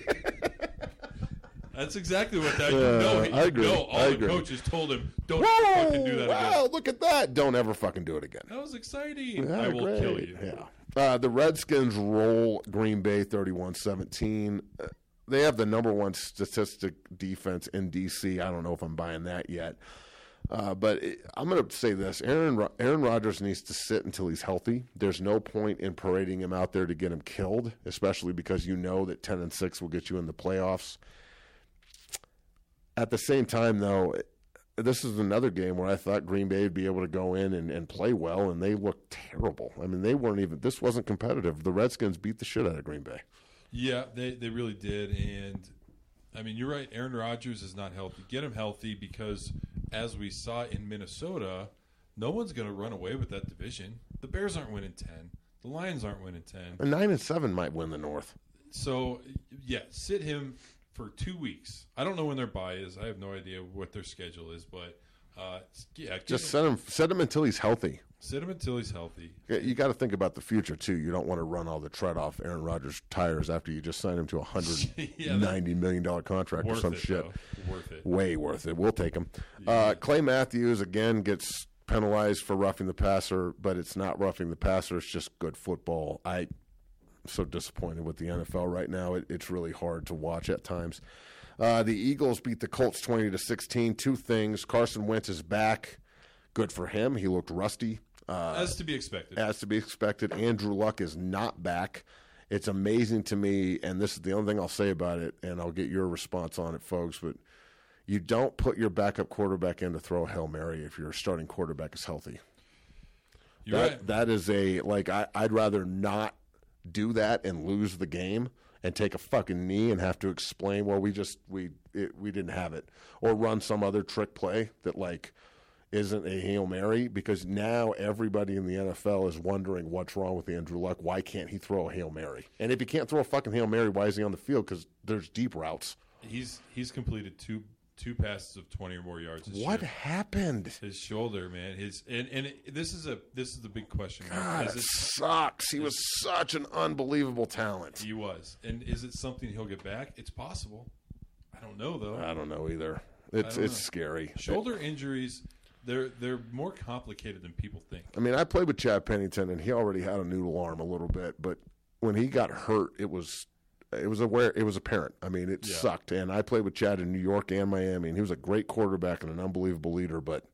Speaker 3: That's exactly what that.
Speaker 2: Yeah,
Speaker 3: no, he,
Speaker 2: I agree.
Speaker 3: no, all
Speaker 2: I
Speaker 3: the
Speaker 2: agree.
Speaker 3: coaches told him, "Don't
Speaker 2: Whoa!
Speaker 3: fucking do that
Speaker 2: Wow,
Speaker 3: again."
Speaker 2: look at that. Don't ever fucking do it again.
Speaker 3: That was exciting.
Speaker 2: Yeah,
Speaker 3: I will
Speaker 2: great.
Speaker 3: kill you.
Speaker 2: Yeah. Uh, the Redskins roll Green Bay thirty-one seventeen. Uh, they have the number one statistic defense in D C. I don't know if I'm buying that yet. Uh, but it, I'm going to say this: Aaron Aaron Rodgers needs to sit until he's healthy. There's no point in parading him out there to get him killed, especially because you know that ten and six will get you in the playoffs. At the same time, though, this is another game where I thought Green Bay would be able to go in and, and play well, and they looked terrible. I mean, they weren't even. This wasn't competitive. The Redskins beat the shit out of Green Bay.
Speaker 3: Yeah, they they really did, and I mean, you're right. Aaron Rodgers is not healthy. Get him healthy because, as we saw in Minnesota, no one's going to run away with that division. The Bears aren't winning ten. The Lions aren't winning ten.
Speaker 2: And nine and seven might win the North.
Speaker 3: So, yeah, sit him for two weeks. I don't know when their bye is. I have no idea what their schedule is, but uh, yeah,
Speaker 2: just
Speaker 3: him,
Speaker 2: set him set him until he's healthy.
Speaker 3: Sit him until he's healthy.
Speaker 2: You got to think about the future too. You don't want to run all the tread off Aaron Rodgers' tires after you just signed him to a hundred
Speaker 3: yeah,
Speaker 2: ninety million dollar contract or some
Speaker 3: it,
Speaker 2: shit.
Speaker 3: Though. Worth it.
Speaker 2: Way worth it. We'll take him.
Speaker 3: Yeah.
Speaker 2: Uh, Clay Matthews again gets penalized for roughing the passer, but it's not roughing the passer. It's just good football. I'm so disappointed with the N F L right now. It, it's really hard to watch at times. Uh, the Eagles beat the Colts twenty to sixteen. Two things: Carson Wentz is back. Good for him. He looked rusty. Uh,
Speaker 3: as to be expected.
Speaker 2: As to be expected. Andrew Luck is not back. It's amazing to me, and this is the only thing I'll say about it, and I'll get your response on it, folks, but you don't put your backup quarterback in to throw a Hail Mary if your starting quarterback is healthy.
Speaker 3: You're
Speaker 2: that,
Speaker 3: right.
Speaker 2: That is a, like, I, I'd rather not do that and lose the game and take a fucking knee and have to explain, well, we just, we it, we didn't have it. Or run some other trick play that, like, isn't a Hail Mary, because now everybody in the N F L is wondering what's wrong with Andrew Luck. Why can't he throw a Hail Mary? And if he can't throw a fucking Hail Mary, why is he on the field? Because there's deep routes.
Speaker 3: He's he's completed two two passes of twenty or more yards. This
Speaker 2: What
Speaker 3: year.
Speaker 2: happened?
Speaker 3: His shoulder, man. His and and it, this is a this is the big question.
Speaker 2: God,
Speaker 3: is
Speaker 2: it
Speaker 3: it,
Speaker 2: sucks. He was such an unbelievable talent.
Speaker 3: He was. And is it something he'll get back? It's possible. I don't know though.
Speaker 2: I don't know either. It's
Speaker 3: don't
Speaker 2: it's
Speaker 3: know.
Speaker 2: scary.
Speaker 3: Shoulder injuries, they're they're more complicated than people think.
Speaker 2: I mean, I played with Chad Pennington, and he already had a noodle arm a little bit, but when he got hurt, it was it was aware it was apparent. I mean, it
Speaker 3: Yeah.
Speaker 2: sucked. And I played with Chad in New York and Miami, and he was a great quarterback and an unbelievable leader. But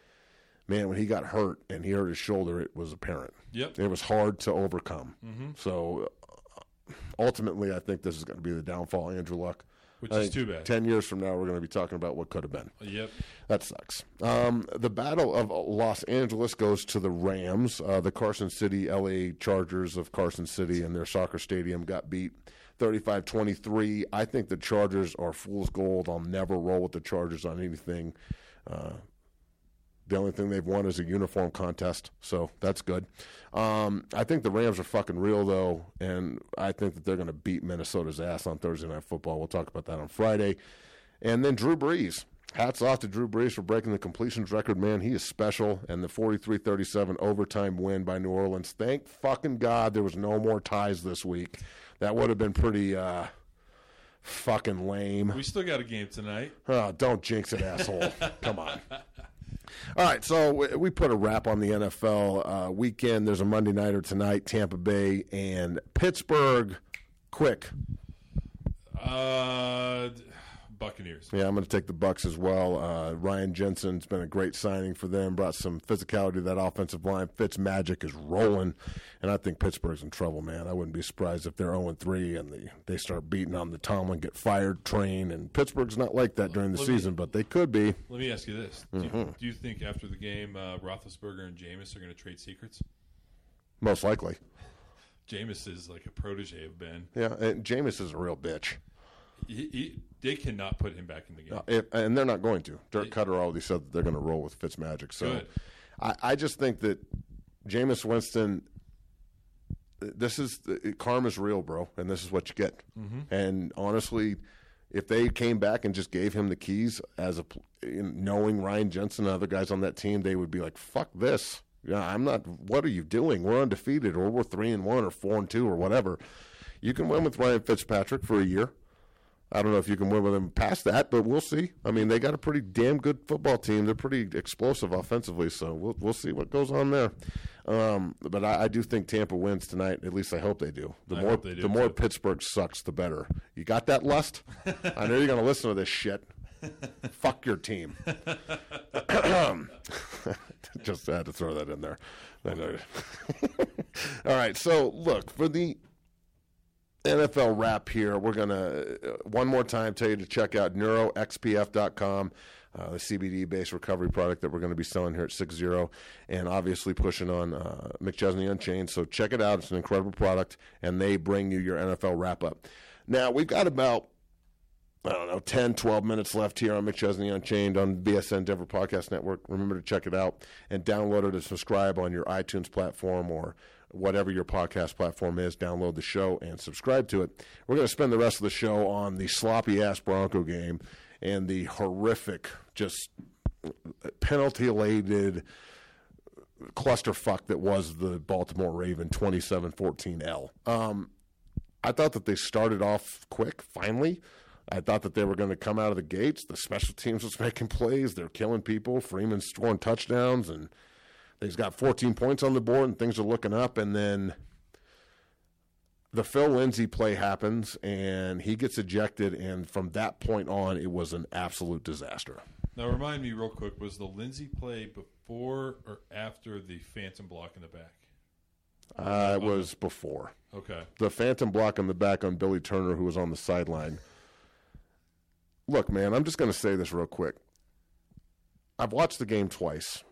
Speaker 2: man, when he got hurt and he hurt his shoulder, it was apparent.
Speaker 3: Yep.
Speaker 2: It was hard to overcome.
Speaker 3: Mm-hmm.
Speaker 2: So uh, ultimately, I think this is going to be the downfall of Andrew Luck.
Speaker 3: Which
Speaker 2: I
Speaker 3: is
Speaker 2: think
Speaker 3: too bad.
Speaker 2: Ten years from now, we're going to be talking about what could have been.
Speaker 3: Yep.
Speaker 2: That sucks. Um, the Battle of Los Angeles goes to the Rams. Uh, the Carson City L A Chargers of Carson City and their soccer stadium got beat thirty-five twenty-three. I think the Chargers are fool's gold. I'll never roll with the Chargers on anything. Uh, the only thing they've won is a uniform contest, so that's good. Um, I think the Rams are fucking real, though, and I think that they're going to beat Minnesota's ass on Thursday Night Football. We'll talk about that on Friday. And then Drew Brees. Hats off to Drew Brees for breaking the completions record, man. He is special. And the forty-three thirty-seven overtime win by New Orleans. Thank fucking God there was no more ties this week. That would have been pretty uh, fucking lame.
Speaker 3: We still got a game tonight.
Speaker 2: Oh, don't jinx it, asshole. Come on. All right, so we- we put a wrap on the N F L uh, weekend. There's a Monday nighter tonight, Tampa Bay and Pittsburgh. Quick.
Speaker 3: Uh, Buccaneers.
Speaker 2: Yeah, I'm going to take the Bucks as well. Uh, Ryan Jensen's been a great signing for them. Brought some physicality to that offensive line. Fitzmagic is rolling, and I think Pittsburgh's in trouble, man. I wouldn't be surprised if they're oh and three and they, they start beating on the Tomlin, get fired, train, and Pittsburgh's not like that during the
Speaker 3: Let me-
Speaker 2: season, but they could be.
Speaker 3: Let me ask you this: do,
Speaker 2: Mm-hmm.
Speaker 3: you, do you think after the game, uh, Roethlisberger and Jameis are going to trade secrets?
Speaker 2: Most likely.
Speaker 3: Jameis is like a protege of Ben.
Speaker 2: Yeah, and Jameis is a real bitch.
Speaker 3: He, he, they cannot put him back in the game.
Speaker 2: Uh, if, and they're not going to. Dirk Cutter already said that they're going to roll with Fitzmagic. So
Speaker 3: Good.
Speaker 2: I, I just think that Jameis Winston, this is – karma's real, bro, and this is what you get.
Speaker 3: Mm-hmm.
Speaker 2: And honestly, if they came back and just gave him the keys as a – knowing Ryan Jensen and other guys on that team, they would be like, fuck this. Yeah, I'm not – what are you doing? We're undefeated, or we're three and one or four and two or whatever. You can win with Ryan Fitzpatrick for a year. I don't know if you can win with them past that, but we'll see. I mean, they got a pretty damn good football team. They're pretty explosive offensively, so we'll we'll see what goes on there. Um, but I, I do think Tampa wins tonight. At least I hope they do. The
Speaker 3: I
Speaker 2: more
Speaker 3: hope they do,
Speaker 2: the more
Speaker 3: too.
Speaker 2: Pittsburgh sucks, the better. You got that, Lust? I know you're going to listen to this shit. Fuck your team. Just had to throw that in there. All right, so look, for the N F L wrap here, we're going to, uh, one more time, tell you to check out neuro x p f dot com, uh, the C B D-based recovery product that we're going to be selling here at six zero, and obviously pushing on uh, McChesney Unchained. So check it out. It's an incredible product, and they bring you your N F L wrap-up. Now, we've got about, I don't know, ten, twelve minutes left here on McChesney Unchained on B S N Denver Podcast Network. Remember to check it out and download it and subscribe on your iTunes platform or whatever your podcast platform is. Download the show and subscribe to it. We're going to spend the rest of the show on the sloppy-ass Bronco game and the horrific, just penalty-laden clusterfuck that was the Baltimore Raven twenty-seven fourteen L. Um, I thought that they started off quick, finally. I thought that they were going to come out of the gates. The special teams was making plays. They're killing people. Freeman's scoring touchdowns, and he's got fourteen points on the board, and things are looking up. And then the Phil Lindsay play happens, and he gets ejected. And from that point on, it was an absolute disaster.
Speaker 3: Now, remind me real quick, was the Lindsay play before or after the phantom block in the back?
Speaker 2: Uh, it was before.
Speaker 3: Okay.
Speaker 2: The phantom block in the back on Billy Turner, who was on the sideline. Look, man, I'm just going to say this real quick. I've watched the game twice.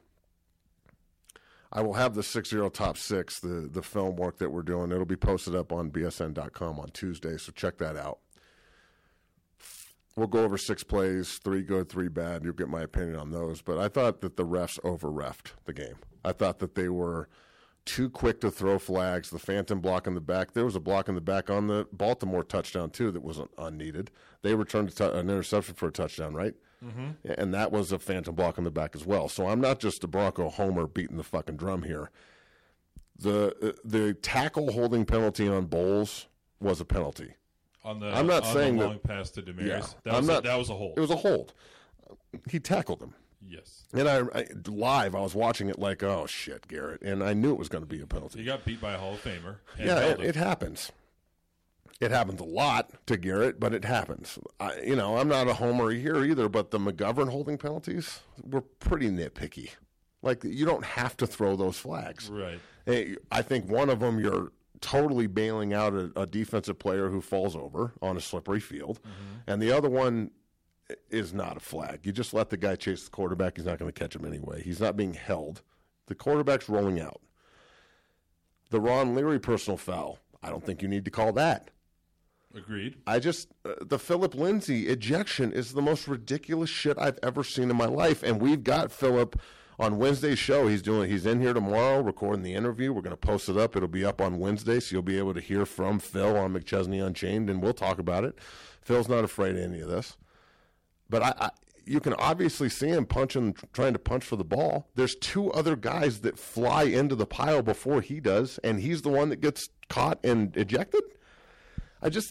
Speaker 2: I will have the six zero top six, the, the film work that we're doing. It'll be posted up on B S N dot com on Tuesday, so check that out. We'll go over six plays, three good, three bad. You'll get my opinion on those. But I thought that the refs over-reffed the game. I thought that they were too quick to throw flags. The phantom block in the back. There was a block in the back on the Baltimore touchdown, too, that wasn't unneeded. They returned t- an interception for a touchdown, right? Mm-hmm. And that was a phantom block in the back as well. So I'm not just a Bronco homer beating the fucking drum here. The the tackle holding penalty on Bowles was a penalty.
Speaker 3: On the,
Speaker 2: I'm not
Speaker 3: on
Speaker 2: saying
Speaker 3: the
Speaker 2: that,
Speaker 3: long pass to Demers.
Speaker 2: Yeah,
Speaker 3: that,
Speaker 2: I'm
Speaker 3: was
Speaker 2: not,
Speaker 3: a, that was a hold.
Speaker 2: It was a hold. He tackled him.
Speaker 3: Yes.
Speaker 2: And I, I live, I was watching it like, oh, shit, Garrett. And I knew it was going to be a penalty.
Speaker 3: He got beat by a Hall of Famer. And
Speaker 2: yeah, it,
Speaker 3: him.
Speaker 2: it happens. It happens a lot to Garrett, but it happens. I, you know, I'm not a homer here either, but the McGovern holding penalties were pretty nitpicky. Like, you don't have to throw those flags.
Speaker 3: Right.
Speaker 2: Hey, I think one of them, you're totally bailing out a, a defensive player who falls over on a slippery field. Mm-hmm. And the other one is not a flag. You just let the guy chase the quarterback. He's not going to catch him anyway. He's not being held. The quarterback's rolling out. The Ron Leary personal foul, I don't think you need to call that.
Speaker 3: Agreed.
Speaker 2: I just, uh, the Philip Lindsay ejection is the most ridiculous shit I've ever seen in my life. And we've got Philip on Wednesday's show. He's doing, he's in here tomorrow recording the interview. We're going to post it up. It'll be up on Wednesday, so you'll be able to hear from Phil on McChesney Unchained, and we'll talk about it. Phil's not afraid of any of this. But I, I, you can obviously see him punching, trying to punch for the ball. There's two other guys that fly into the pile before he does, and he's the one that gets caught and ejected. I just,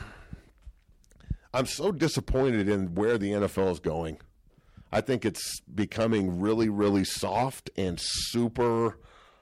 Speaker 2: I'm so disappointed in where the N F L is going. I think it's becoming really, really soft and super,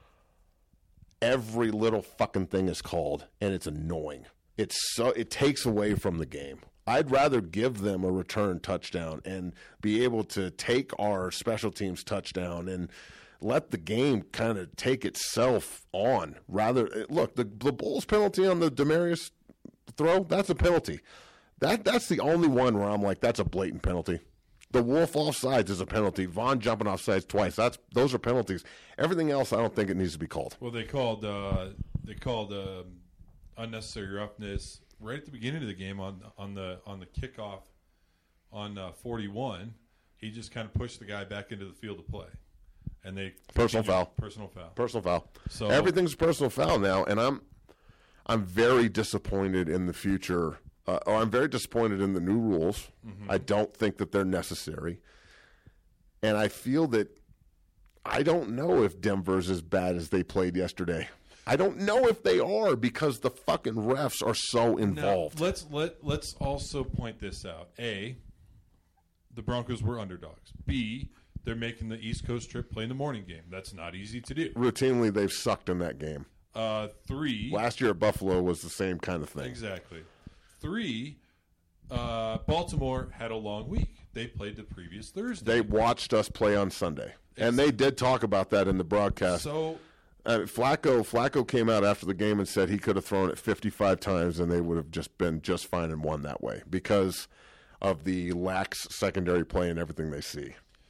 Speaker 2: every little fucking thing is called, and it's annoying. It's so, it takes away from the game. I'd rather give them a return touchdown and be able to take our special teams touchdown and let the game kind of take itself on. Rather, look, the the Bulls penalty on the Demarius throw, that's a penalty. That That's the only one where I'm like, that's a blatant penalty. The Wolf offsides is a penalty. Vaughn jumping offsides twice. That's Those are penalties. Everything else, I don't think it needs to be called.
Speaker 3: Well, they called uh, they called uh, unnecessary roughness right at the beginning of the game on on the on the kickoff on uh, forty-one. He just kind of pushed the guy back into the field of play, and they
Speaker 2: personal foul,
Speaker 3: personal foul,
Speaker 2: personal foul.
Speaker 3: So
Speaker 2: everything's a personal foul now, and I'm I'm very disappointed in the future. Uh, or I'm very disappointed in the new rules. Mm-hmm. I don't think that they're necessary, and I feel that I don't know if Denver's as bad as they played yesterday. I don't know if they are because the fucking refs are so involved.
Speaker 3: Now, let's let let's also point this out. A, the Broncos were underdogs. B, they're making the East Coast trip, playing the morning game. That's not easy to do.
Speaker 2: Routinely, they've sucked in that game.
Speaker 3: Uh, three.
Speaker 2: Last year at Buffalo was the same kind of thing.
Speaker 3: Exactly. Three, uh, Baltimore had a long week. they played the previous Thursday.
Speaker 2: They watched us play on Sunday, and they did talk about that in the broadcast.
Speaker 3: So
Speaker 2: uh, Flacco Flacco came out after the game and said he could have thrown it fifty-five times, and they would have just been just fine and won that way because of the lax secondary play and everything they see.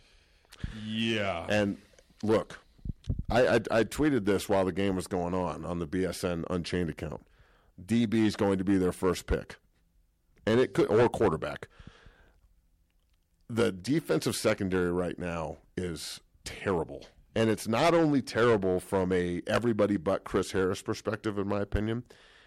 Speaker 3: Yeah.
Speaker 2: And look, I, I, I tweeted this while the game was going on on the B S N Unchained account. D B is going to be their first pick, and it could or quarterback. The defensive secondary right now is terrible, and it's not only terrible from a everybody but Chris Harris perspective, in my opinion.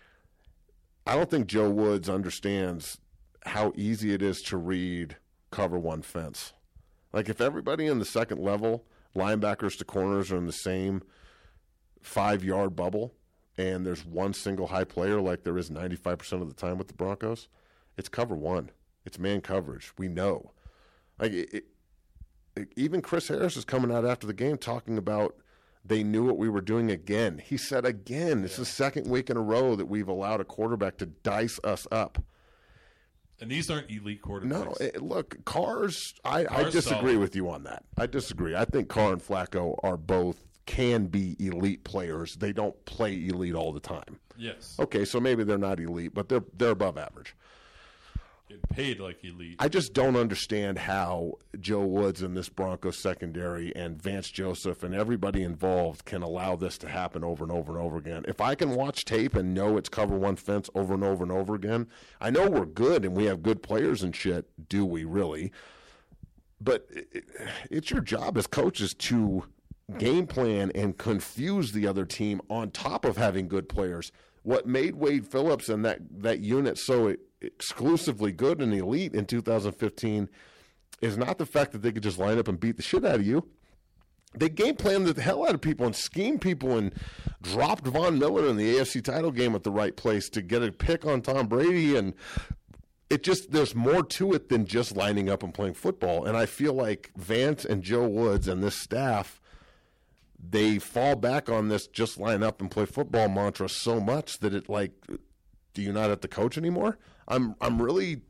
Speaker 2: I don't think Joe Woods understands how easy it is to read cover one fence. Like if everybody in the second level, linebackers to corners, are in the same five-yard bubble, and there's one single high player like there is ninety-five percent of the time with the Broncos, it's cover one. It's man coverage. We know. Like it, it, even Chris Harris is coming out after the game talking about they knew what we were doing again. He said again, it's yeah. the second week in a row that we've allowed a quarterback to dice us up.
Speaker 3: And these aren't elite quarterbacks.
Speaker 2: No, it, look, Carr's, I,
Speaker 3: Carr's
Speaker 2: I disagree
Speaker 3: solid.
Speaker 2: with you on that. I disagree. I think Carr and Flacco are both can be elite players. They don't play elite all the time.
Speaker 3: Yes.
Speaker 2: Okay, so maybe they're not elite, but they're they're above average.
Speaker 3: Getting paid like elite.
Speaker 2: I just don't understand how Joe Woods and this Broncos secondary and Vance Joseph and everybody involved can allow this to happen over and over and over again. If I can watch tape and know it's cover one fence over and over and over again, I know we're good and we have good players and shit. Do we really? But it, it's your job as coaches to game plan and confuse the other team on top of having good players. What made Wade Phillips and that, that unit so exclusively good and elite in two thousand fifteen is not the fact that they could just line up and beat the shit out of you. They game planned the hell out of people and schemed people and dropped Von Miller in the A F C title game at the right place to get a pick on Tom Brady. And it just, there's more to it than just lining up and playing football. And I feel like Vance and Joe Woods and this staff, they fall back on this just line up and play football mantra so much that it like, do you not have to coach anymore? I'm I'm really,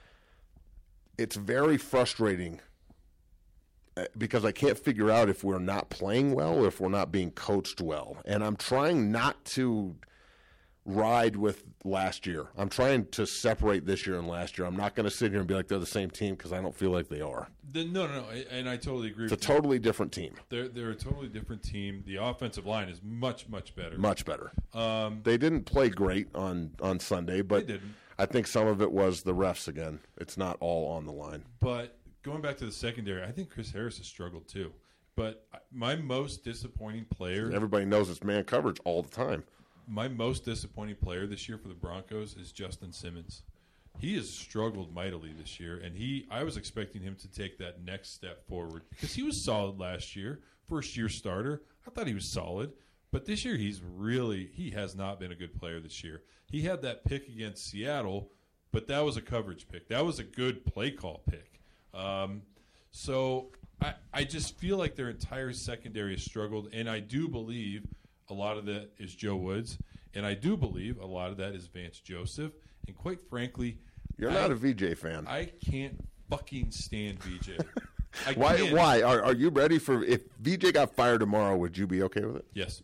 Speaker 2: it's very frustrating because I can't figure out if we're not playing well or if we're not being coached well. And I'm trying not to ride with last year. I'm trying to separate this year and last year. I'm not going to sit here and be like they're the same team because I don't feel like they are.
Speaker 3: The, no, no, no, and I totally agree
Speaker 2: it's
Speaker 3: with
Speaker 2: you. It's a
Speaker 3: you.
Speaker 2: totally different team.
Speaker 3: They're, they're a totally different team. The offensive line is much, much better.
Speaker 2: Much better.
Speaker 3: Um,
Speaker 2: they didn't play great on, on Sunday, but
Speaker 3: they didn't.
Speaker 2: I think some of it was the refs again. It's not all on the line.
Speaker 3: But going back to the secondary, I think Chris Harris has struggled too. But my most disappointing player...
Speaker 2: Everybody knows it's man coverage all the time.
Speaker 3: My most disappointing player this year for the Broncos is Justin Simmons. He has struggled mightily this year, and he I was expecting him to take that next step forward because he was solid last year, first-year starter. I thought he was solid. But this year he's really – he has not been a good player this year. He had that pick against Seattle, but that was a coverage pick. That was a good play call pick. Um, so I, I just feel like their entire secondary has struggled, and I do believe a lot of that is Joe Woods, and I do believe a lot of that is Vance Joseph. And quite frankly –
Speaker 2: You're
Speaker 3: I,
Speaker 2: not a V J fan.
Speaker 3: I can't fucking stand V J. I
Speaker 2: why?
Speaker 3: can't.
Speaker 2: Why are are you ready for if V J got fired tomorrow? Would you be okay with it?
Speaker 3: Yes,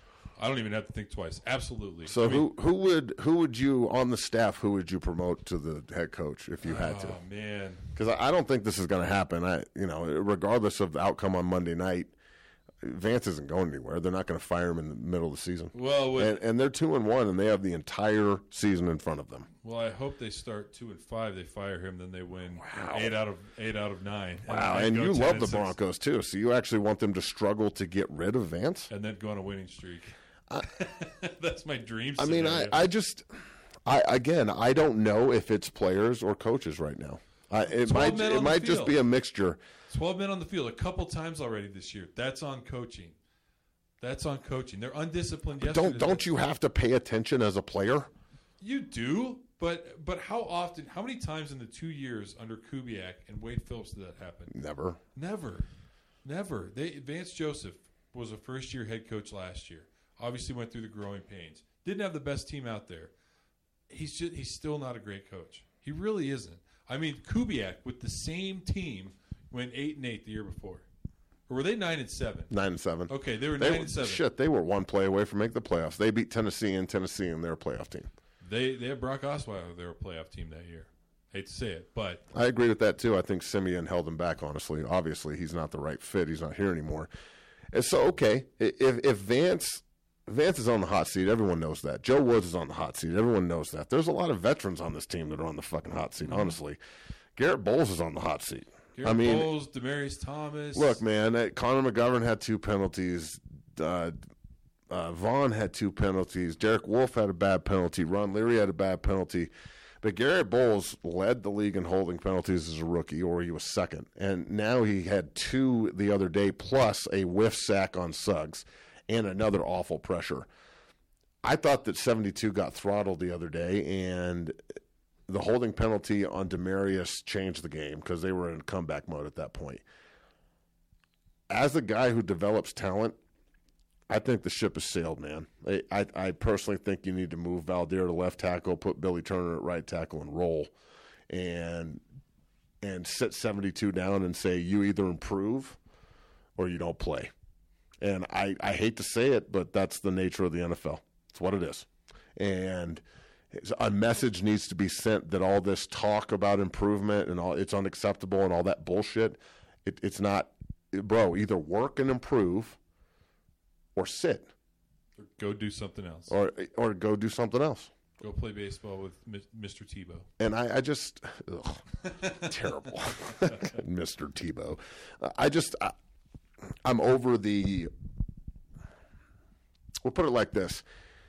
Speaker 3: I don't even have to think twice. Absolutely.
Speaker 2: So
Speaker 3: I mean,
Speaker 2: who who would who would you on the staff? Who would you promote to the head coach if you had to?
Speaker 3: Oh man,
Speaker 2: because I, I don't think this is going to happen. I you know regardless of the outcome on Monday night, Vance isn't going anywhere. They're not going to fire him in the middle of the season.
Speaker 3: Well, with,
Speaker 2: and, and they're two and one, and they have the entire season in front of them.
Speaker 3: Well, I hope they start two and five. They fire him, then they win
Speaker 2: wow.
Speaker 3: eight out of eight out of nine.
Speaker 2: Wow,
Speaker 3: and,
Speaker 2: and,
Speaker 3: and
Speaker 2: you love the
Speaker 3: six.
Speaker 2: Broncos too, so you actually want them to struggle to get rid of Vance,
Speaker 3: and then go on a winning streak.
Speaker 2: I,
Speaker 3: That's my dream.
Speaker 2: I mean, I, I just, I again, I don't know if it's players or coaches right now. I, it might it might just be a mixture.
Speaker 3: Twelve men on the field a couple times already this year. That's on coaching. That's on coaching. They're undisciplined.
Speaker 2: But don't don't you have to pay attention as a player?
Speaker 3: You do, but but how often? How many times in the two years under Kubiak and Wade Phillips did that happen?
Speaker 2: Never.
Speaker 3: Never, never. They Vance Joseph was a first year head coach last year. Obviously went through the growing pains. Didn't have the best team out there. He's just, he's still not a great coach. He really isn't. I mean, Kubiak with the same team went eight and eight the year before. Or were they nine and seven?
Speaker 2: Nine and seven.
Speaker 3: Okay, they were
Speaker 2: They
Speaker 3: nine
Speaker 2: were,
Speaker 3: and seven.
Speaker 2: shit, they were one play away from making the playoffs. They beat Tennessee and Tennessee, and they're a playoff team.
Speaker 3: They they had Brock Osweiler. They were a playoff team that year. Hate to say it, but
Speaker 2: I agree with that too. I think Simeon held him back. Honestly, obviously he's not the right fit. He's not here anymore. And so, okay, if if Vance Vance is on the hot seat, everyone knows that. Joe Woods is on the hot seat. Everyone knows that. There's a lot of veterans on this team that are on the fucking hot seat. Honestly, Garrett Bowles is on the hot seat.
Speaker 3: Garrett
Speaker 2: I mean,
Speaker 3: Bowles, Demaryius Thomas.
Speaker 2: Look, man, uh, Connor McGovern had two penalties. Uh, uh, Vaughn had two penalties. Derek Wolfe had a bad penalty. Ron Leary had a bad penalty. But Garrett Bowles led the league in holding penalties as a rookie, or he was second. And now he had two the other day, plus a whiff sack on Suggs and another awful pressure. I thought that seventy-two got throttled the other day, and the holding penalty on Demaryius changed the game because they were in comeback mode at that point. As a guy who develops talent, I think the ship has sailed, man. I, I, I personally think you need to move Valdir to left tackle, put Billy Turner at right tackle, and roll, and and sit seventy-two down and say you either improve or you don't play. And I, I hate to say it, but that's the nature of the N F L. It's what it is. And a message needs to be sent that all this talk about improvement and all it's unacceptable and all that bullshit, it, it's not, bro, either work and improve or sit.
Speaker 3: Or go do something else.
Speaker 2: Or or go do something else.
Speaker 3: Go play baseball with Mister Tebow.
Speaker 2: And I, I just, ugh, terrible. Mister Tebow. I just, I, I'm over the, we'll put it like this.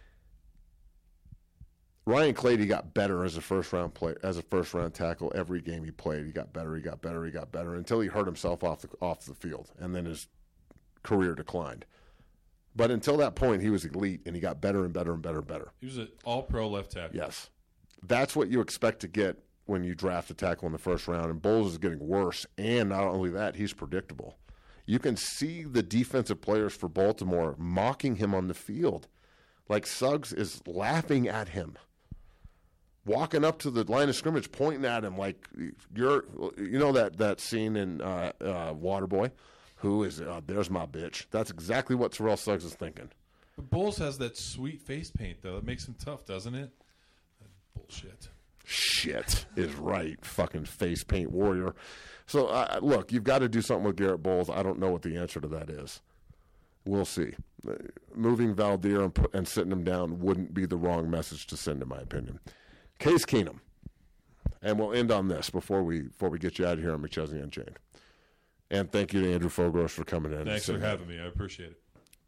Speaker 2: Ryan Clady got better as a first round play as a first round tackle every game he played. He got better, he got better, he got better until he hurt himself off the off the field, and then his career declined. But until that point, he was elite, and he got better and better and better and better.
Speaker 3: He was an all-pro left tackle.
Speaker 2: Yes, that's what you expect to get when you draft a tackle in the first round. And Bowles is getting worse, and not only that, he's predictable. You can see the defensive players for Baltimore mocking him on the field, like Suggs is laughing at him. Walking up to the line of scrimmage, pointing at him like you're, you know that that scene in uh, uh, Waterboy, who is uh, there's my bitch. That's exactly what Terrell Suggs is thinking.
Speaker 3: But Bowles has that sweet face paint though. It makes him tough, doesn't it? Bullshit.
Speaker 2: Shit is right, fucking face paint warrior. So uh, look, you've got to do something with Garrett Bowles. I don't know what the answer to that is. We'll see. Uh, moving Valdir and, put, and sitting him down wouldn't be the wrong message to send, in my opinion. Case Keenum, and we'll end on this before we before we get you out of here on McChesney Unchained. And thank you to Andrew Fogros for coming in.
Speaker 3: Thanks for having me. I appreciate it.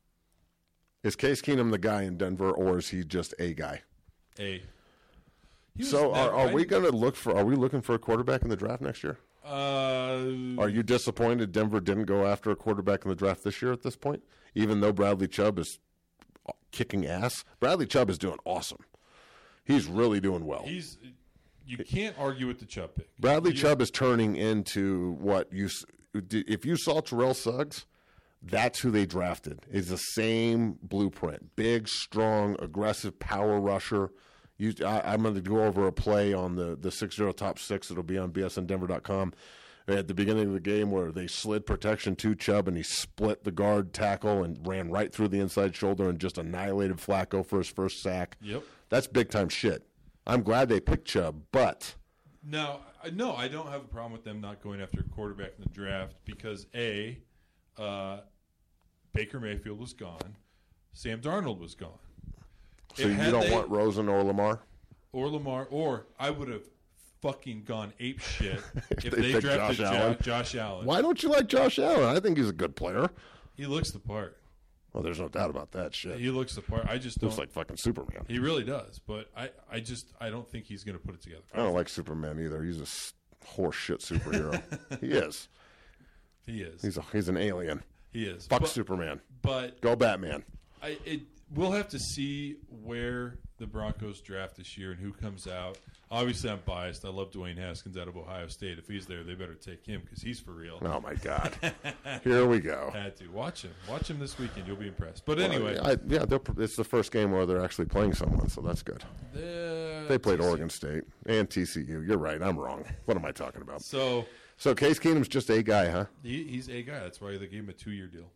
Speaker 2: Is Case Keenum the guy in Denver, or is he just a guy?
Speaker 3: A.
Speaker 2: So are, are we going to look for? Are we looking for a quarterback in the draft next year?
Speaker 3: Uh,
Speaker 2: are you disappointed Denver didn't go after a quarterback in the draft this year at this point? Even though Bradley Chubb is kicking ass, Bradley Chubb is doing awesome. He's really doing well.
Speaker 3: He's you can't argue with the Chubb pick.
Speaker 2: Bradley
Speaker 3: you,
Speaker 2: Chubb is turning into what you if you saw Terrell Suggs, that's who they drafted. Is the same blueprint: big, strong, aggressive power rusher. You, I, I'm going to go over a play on the the six zero top six. It'll be on B S N Denver dot com. At the beginning of the game, where they slid protection to Chubb and he split the guard tackle and ran right through the inside shoulder and just annihilated Flacco for his first sack.
Speaker 3: Yep.
Speaker 2: That's big-time shit. I'm glad they picked Chubb, but...
Speaker 3: No, no, I don't have a problem with them not going after a quarterback in the draft because, A, uh, Baker Mayfield was gone. Sam Darnold was gone.
Speaker 2: So you don't they, want Rosen or Lamar?
Speaker 3: Or Lamar, or I would have fucking gone ape shit if, if
Speaker 2: they,
Speaker 3: they drafted
Speaker 2: Josh
Speaker 3: jo-
Speaker 2: Allen.
Speaker 3: Josh Allen.
Speaker 2: Why don't you like Josh Allen? I think he's a good player.
Speaker 3: He looks the part.
Speaker 2: Well, there's no doubt about that shit.
Speaker 3: He looks the part. I just don't.
Speaker 2: Looks like fucking Superman.
Speaker 3: He really does, but I, I just, I don't think he's going to put it together.
Speaker 2: I don't like Superman either. He's a horse shit superhero. He is.
Speaker 3: He is.
Speaker 2: He's a, he's an alien.
Speaker 3: He is.
Speaker 2: Fuck
Speaker 3: but,
Speaker 2: Superman.
Speaker 3: But
Speaker 2: go Batman.
Speaker 3: I, it, we'll have to see where the Broncos draft this year and who comes out. Obviously, I'm biased. I love Dwayne Haskins out of Ohio State. If he's there, they better take him because he's for real.
Speaker 2: Oh, my God. Here we go.
Speaker 3: Had to. Watch him. Watch him this weekend. You'll be impressed. But anyway.
Speaker 2: Well, I, yeah, it's the first game where they're actually playing someone, so that's good.
Speaker 3: The
Speaker 2: they played
Speaker 3: T C U.
Speaker 2: Oregon State and T C U. You're right. I'm wrong. What am I talking about?
Speaker 3: So,
Speaker 2: so Case Keenum's just a guy, huh?
Speaker 3: he, he's a guy. That's why they gave him a two-year deal.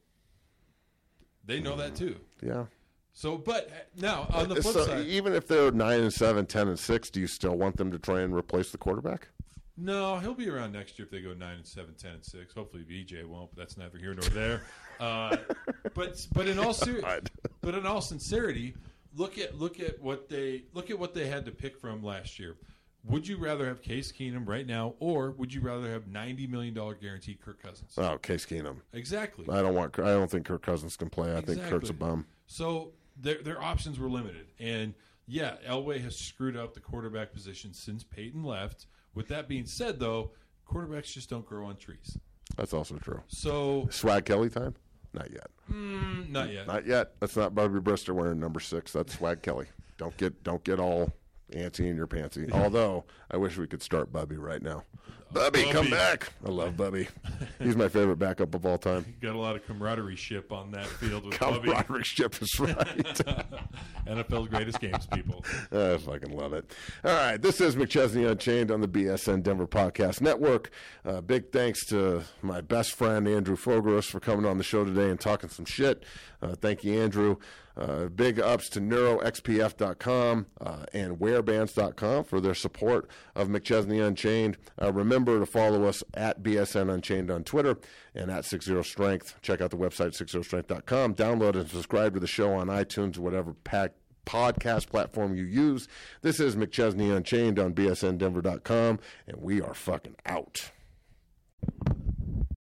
Speaker 3: They know that, too.
Speaker 2: Yeah.
Speaker 3: So, but now, on the flip
Speaker 2: so
Speaker 3: side.
Speaker 2: Even if they're nine and seven, ten and six, do you still want them to try and replace the quarterback?
Speaker 3: No, he'll be around next year if they go nine and seven, ten and six. Hopefully, V J won't, but that's neither here nor there. Uh, but but in all ser- but in all sincerity, look at look at what they look at what they had to pick from last year. Would you rather have Case Keenum right now, or would you rather have ninety million dollar guaranteed Kirk Cousins?
Speaker 2: Oh, Case Keenum.
Speaker 3: Exactly.
Speaker 2: I don't want. I don't think Kirk Cousins can play. I
Speaker 3: exactly.
Speaker 2: think Kirk's a bum.
Speaker 3: So their their options were limited, and yeah, Elway has screwed up the quarterback position since Peyton left. With that being said, though, quarterbacks just don't grow on trees.
Speaker 2: That's also true.
Speaker 3: So
Speaker 2: Swag Kelly time? Not yet.
Speaker 3: Mm, not yet.
Speaker 2: Not yet. That's not Bubby Brister wearing number six. That's Swag Kelly. Don't get don't get all antsy in your pantsy. Although I wish we could start Bubby right now. Bubby,
Speaker 3: Bubby.
Speaker 2: come back. I love Bubby. He's my favorite backup of all time.
Speaker 3: Got a lot of camaraderie ship on that field with Bubby.
Speaker 2: Camaraderie ship is right.
Speaker 3: N F L's greatest games, people.
Speaker 2: I fucking love it. All right, this is McChesney Unchained on the B S N Denver Podcast Network. Uh, big thanks to my best friend, Andrew Fogarus, for coming on the show today and talking some shit. Uh, thank you, Andrew. Uh, big ups to neuro x p f dot com uh, and wearbands dot com for their support of McChesney Unchained. Uh, remember to follow us at B S N Unchained on Twitter and at sixty strength. Check out the website, sixty strength dot com. Download and subscribe to the show on iTunes, whatever pack podcast platform you use. This is McChesney Unchained on B S N Denver dot com, and we are fucking out.